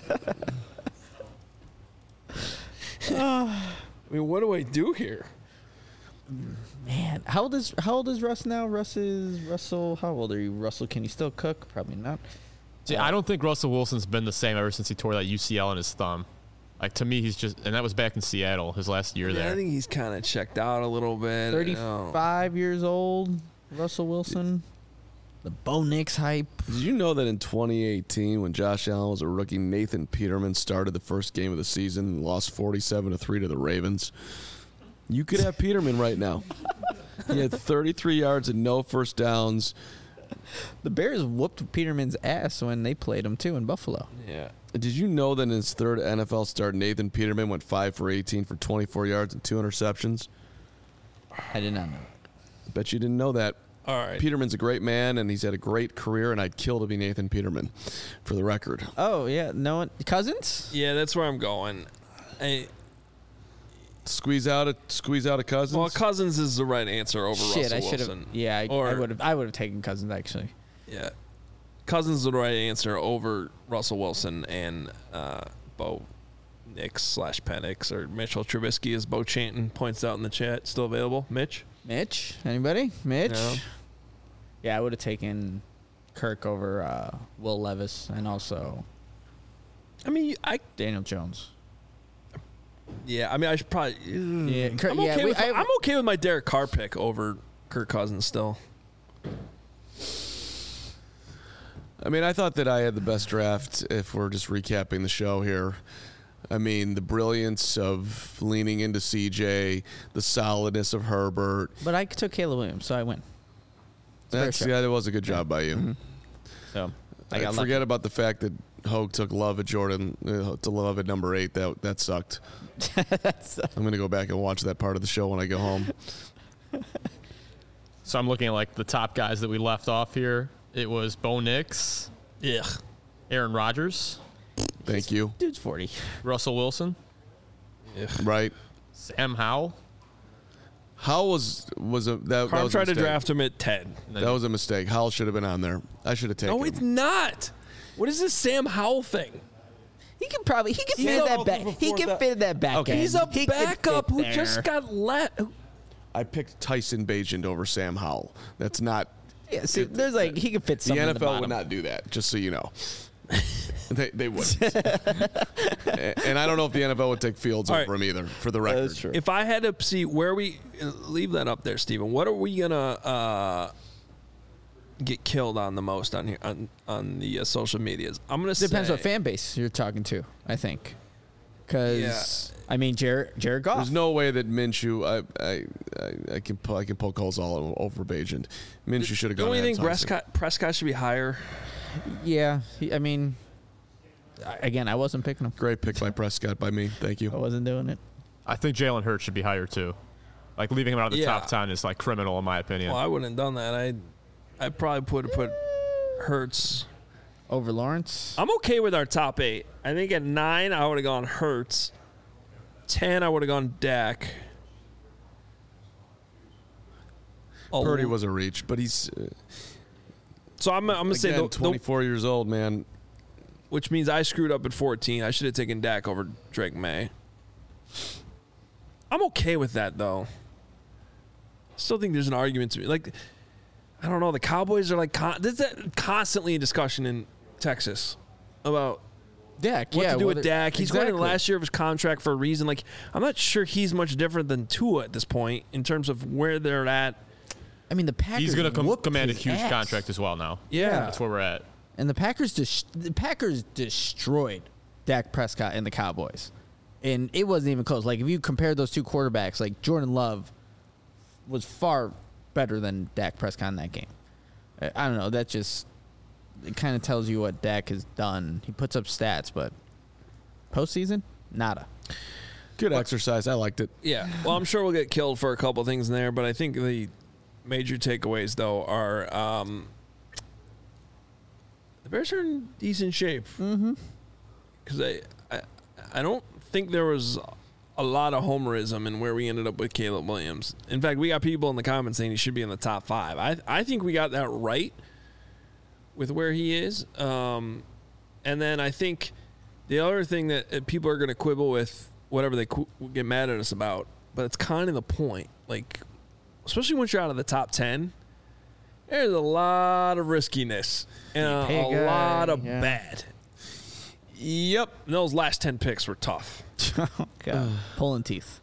I mean, what do I do here? Man, how old is Russ now? Russell. How old are you, Russell? Can you still cook? Probably not. See, I don't think Russell Wilson's been the same ever since he tore that UCL in his thumb. Like, to me, he's just, and that was back in Seattle, his last year there. I think he's kind of checked out a little bit. 35 years old, Russell Wilson. The Bo Nix hype. Did you know that in 2018, when Josh Allen was a rookie, Nathan Peterman started the first game of the season and lost 47-3 to the Ravens? You could have Peterman right now. He had 33 yards and no first downs. The Bears whooped Peterman's ass when they played him, too, in Buffalo. Yeah. Did you know that in his third NFL start, Nathan Peterman went 5 for 18 for 24 yards and 2 interceptions? I did not know. Bet you didn't know that. All right. Peterman's a great man, and he's had a great career, and I'd kill to be Nathan Peterman, for the record. Oh, yeah. No one. Cousins? Yeah, that's where I'm going. Squeeze out a Cousins? Well, Cousins is the right answer over Shit, Russell I should have. Wilson. Yeah, I would have taken Cousins, actually. Yeah. Cousins is the right answer over Russell Wilson and Bo Nix / Penix, or Mitchell Trubisky, as Bo Chanton points out in the chat. Still available? Mitch? Anybody? Mitch? No. Yeah, I would have taken Kirk over Will Levis and also I mean, Daniel Jones. I mean, I should probably. Yeah, I'm okay with my Derek Carr pick over Kirk Cousins still. I mean, I thought that I had the best draft, if we're just recapping the show here. I mean, the brilliance of leaning into CJ, the solidness of Herbert. But I took Caleb Williams, so I win. That was a good job by you. Mm-hmm. So I forget about the fact that Hogue took Love at Jordan to Love at number 8. That sucked. I'm going to go back and watch that part of the show when I go home. So I'm looking at, like, the top guys that we left off here. It was Bo Nix. Ugh. Aaron Rodgers. Thank you. Dude's 40. Russell Wilson. Right. Sam Howell. Howell was that Carm was tried a to mistake. draft him at 10. That was a mistake. Howell should have been on there. I should have taken No, him. it's not. What is this Sam Howell thing? He can fit He's in that a- back. He can fit in that back. Okay. end. He's a He can backup fit who there. just got let. I picked Tyson Bagent over Sam Howell. That's not. Yeah, see, there's like he can fit The something. in the NFL bottom. would not do that, just so you know. they wouldn't. And I don't know if the NFL would take Fields All over right. him either, for the record. That's true. If I had to see where we leave that up there, Steven, what are we gonna get killed on the most on here on the social medias? I'm gonna Depends say what fan base you're talking to, I think. Because I mean, Jared Goff. There's no way that Minshew. I can poke holes all over Bagent. Minshew should have gone. Don't you ahead think and tossed him. Prescott should be higher? Yeah, I mean, again, I wasn't picking him. Great pick by Prescott by me. Thank I you. wasn't doing it. I think Jalen Hurts should be higher, too. Like, leaving him out of the Yeah. top 10 is, like, criminal, in my opinion. Well, I wouldn't have done that. I probably would have put Hurts. Over Lawrence. I'm okay with our top 8. I think at 9 I would have gone Hurts. 10 I would have gone Dak. Purdy was a reach, but he's So I'm gonna say again, 24 years old, man. which means I screwed up at 14. I should have taken Dak over Drake May. I'm okay with that though. Still think there's an argument to be like, I don't know. The Cowboys are like there's that constantly in discussion in Texas about Dak. what yeah, to do with Dak. He's going to the exactly. last year of his contract for a reason. Like, I'm not sure he's much different than Tua at this point in terms of where they're at. I mean, the Packers. He's going to whooped command a his huge ass. contract as well now. Yeah. That's where we're at. And the Packers destroyed Dak Prescott and the Cowboys. And it wasn't even close. Like, if you compare those two quarterbacks, like, Jordan Love was far better than Dak Prescott in that game. I don't know. That just, it kind of tells you what Dak has done. He puts up stats, but postseason, nada. Good exercise. I liked it. Yeah. Well, I'm sure we'll get killed for a couple things in there, but I think the major takeaways, though, are the Bears are in decent shape. Mm-hmm. Because I don't think there was a lot of homerism in where we ended up with Caleb Williams. In fact, we got people in the comments saying he should be in the top 5. I think we got that right with where he is. And then I think the other thing that people are going to quibble with, whatever they get mad at us about, but it's kind of the point. Like, especially once you're out of the top 10, there's a lot of riskiness and a lot of bad. Yep. And those last 10 picks were tough. God. Pulling teeth.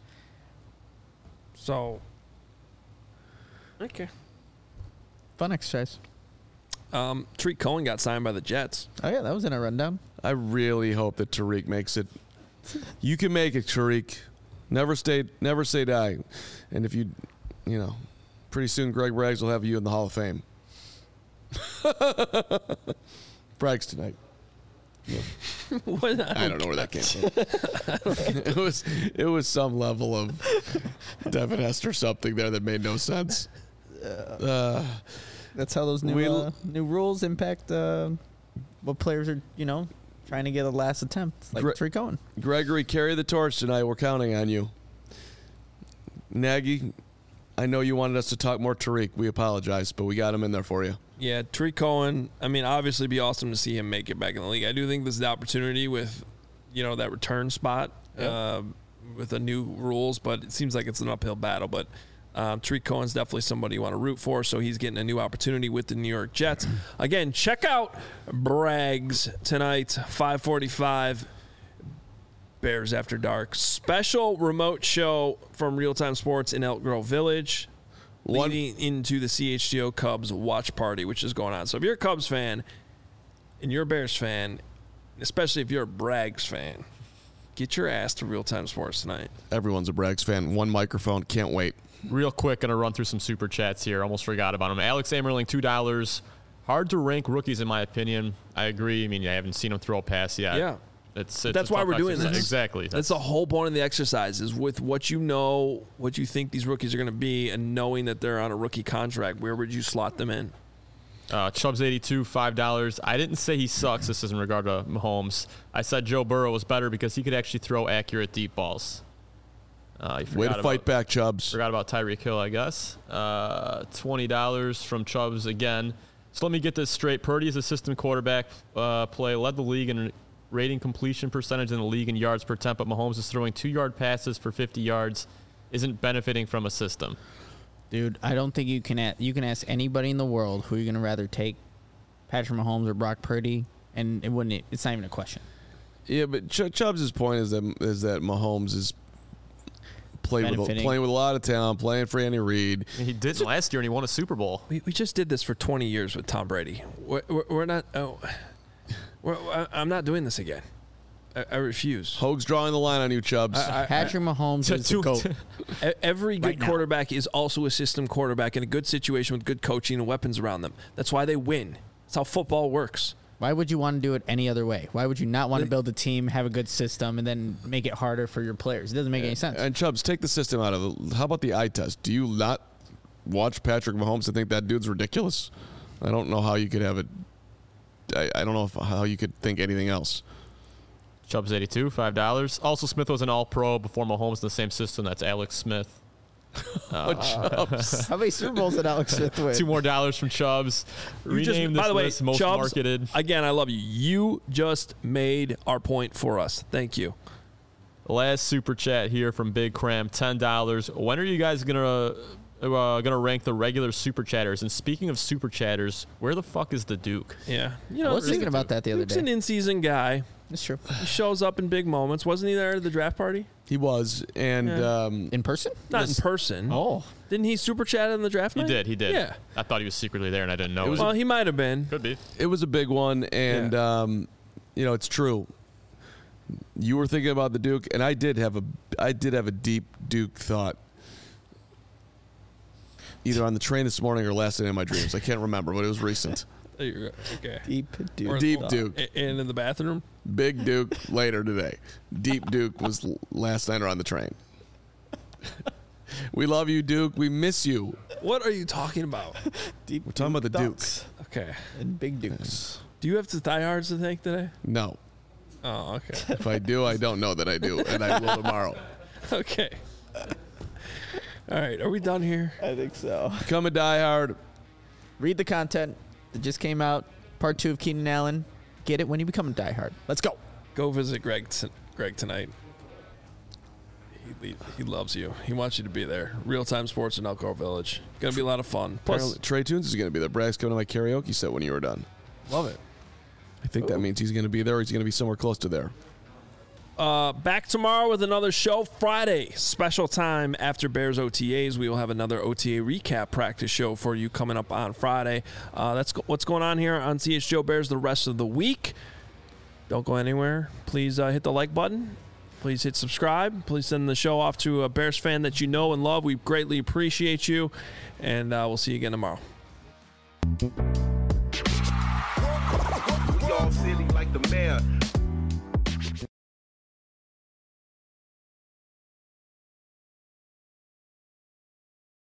So, okay. Fun exercise. Tariq Cohen got signed by the Jets. Oh, yeah, that was in a rundown. I really hope that Tariq makes it. You can make it, Tariq. Never say die. And if you pretty soon Greg Braggs will have you in the Hall of Fame. Braggs tonight. I don't know where that came from. It was some level of Devin Hester something there that made no sense. That's how those new rules impact what players are, trying to get a last attempt, like Tariq Cohen. Gregory, carry the torch tonight. We're counting on you. Nagy, I know you wanted us to talk more Tariq. We apologize, but we got him in there for you. Yeah, Tariq Cohen, I mean, obviously it'd be awesome to see him make it back in the league. I do think this is the opportunity with, that return spot with the new rules, but it seems like it's an uphill battle. But Tariq Cohen's definitely somebody you want to root for, so he's getting a new opportunity with the New York Jets. Again, check out Braggs tonight, 5:45, Bears After Dark. Special remote show from Real Time Sports in Elk Grove Village. Leading into the CHGO Cubs watch party, which is going on. So if you're a Cubs fan and you're a Bears fan, especially if you're a Braggs fan, get your ass to Real Time Sports tonight. Everyone's a Braggs fan. One microphone. Can't wait. Real quick, going to run through some super chats here. Almost forgot about them. Alex Amerling, $2. Hard to rank rookies, in my opinion. I agree. I mean, I haven't seen him throw a pass yet. Yeah. It's that's why we're doing this. Exactly. That's the whole point of the exercise, is with what what you think these rookies are going to be, and knowing that they're on a rookie contract, where would you slot them in? Chubbs82, $5. I didn't say he sucks. This is in regard to Mahomes. I said Joe Burrow was better because he could actually throw accurate deep balls. Way to fight back, Chubbs. Forgot about Tyreek Hill, I guess. $20 from Chubbs again. So let me get this straight. Purdy is a system quarterback play, led the league in rating completion percentage in the league in yards per attempt, but Mahomes is throwing 2-yard passes for 50 yards, isn't benefiting from a system. Dude, I don't think you can ask anybody in the world who you're going to rather take, Patrick Mahomes or Brock Purdy, and it's not even a question. Yeah, but Chubbs' point is that Mahomes is playing with a lot of talent, playing for Andy Reid. He didn't last year, and he won a Super Bowl. We just did this for 20 years with Tom Brady. We're not. I'm not doing this again. I refuse. Hoag's drawing the line on you, Chubbs. Patrick Mahomes is the GOAT. Every good quarterback is also a system quarterback in a good situation with good coaching and weapons around them. That's why they win. That's how football works. Why would you want to do it any other way? Why would you not want to build a team, have a good system, and then make it harder for your players? It doesn't make any sense. And Chubbs, take the system out of it. How about the eye test? Do you not watch Patrick Mahomes and think that dude's ridiculous? I don't know how you could have it. I don't know how you could think anything else. Chubbs82, $5. Also, Smith was an All-Pro before Mahomes in the same system. That's Alex Smith. Chubbs. How many Super Bowls did Alex Smith win? $2 more from Chubbs. Rename this list most Chubbs, marketed. Again, I love you. You just made our point for us. Thank you. Last super chat here from Big Cram, $10. When are you guys gonna rank the regular super chatters? And speaking of super chatters, where the fuck is the Duke? Yeah, I was thinking about that the other Duke's day. an in-season guy. That's true. He shows up in big moments. Wasn't he there at the draft party? He was, and In person? Not in person. Oh. Didn't he super chat in the draft night? He did. Yeah. I thought he was secretly there, and I didn't know it. Well, he might have been. Could be. it was a big one. And it's true. You were thinking about the Duke, and I did have a deep Duke thought, either on the train this morning or last night in my dreams. I can't remember, but it was recent. Okay. Deep Duke. Deep Duke. And in the bathroom? Big Duke later today. Deep Duke was last night or on the train. We love you, Duke. We miss you. What are you talking about? Deep We're talking about the Ducks. Okay. And Big Dukes. Do you have to diehards to thank today? No. Oh, okay. If I do, I don't know that I do, and I will tomorrow. Okay. All right. Are we done here? I think so. Become a diehard. Read the content that just came out. Part 2 of Keenan Allen. Get it when you become a diehard. Let's go. Go visit Greg tonight. He loves you. He wants you to be there. Real Time Sports in Elk Grove Village. Going to be a lot of fun. Plus, Trey Tunes is going to be there. Brad's coming to my karaoke set when you were done. love it. I think that means he's going to be there or he's going to be somewhere close to there. Back tomorrow with another show. Friday, special time after Bears OTAs. We will have another OTA recap practice show for you coming up on Friday. That's what's going on here on CHGO Bears the rest of the week. Don't go anywhere. Please hit the like button. Please hit subscribe. Please send the show off to a Bears fan that you know and love. We greatly appreciate you. And we'll see you again tomorrow. We all silly like the mayor.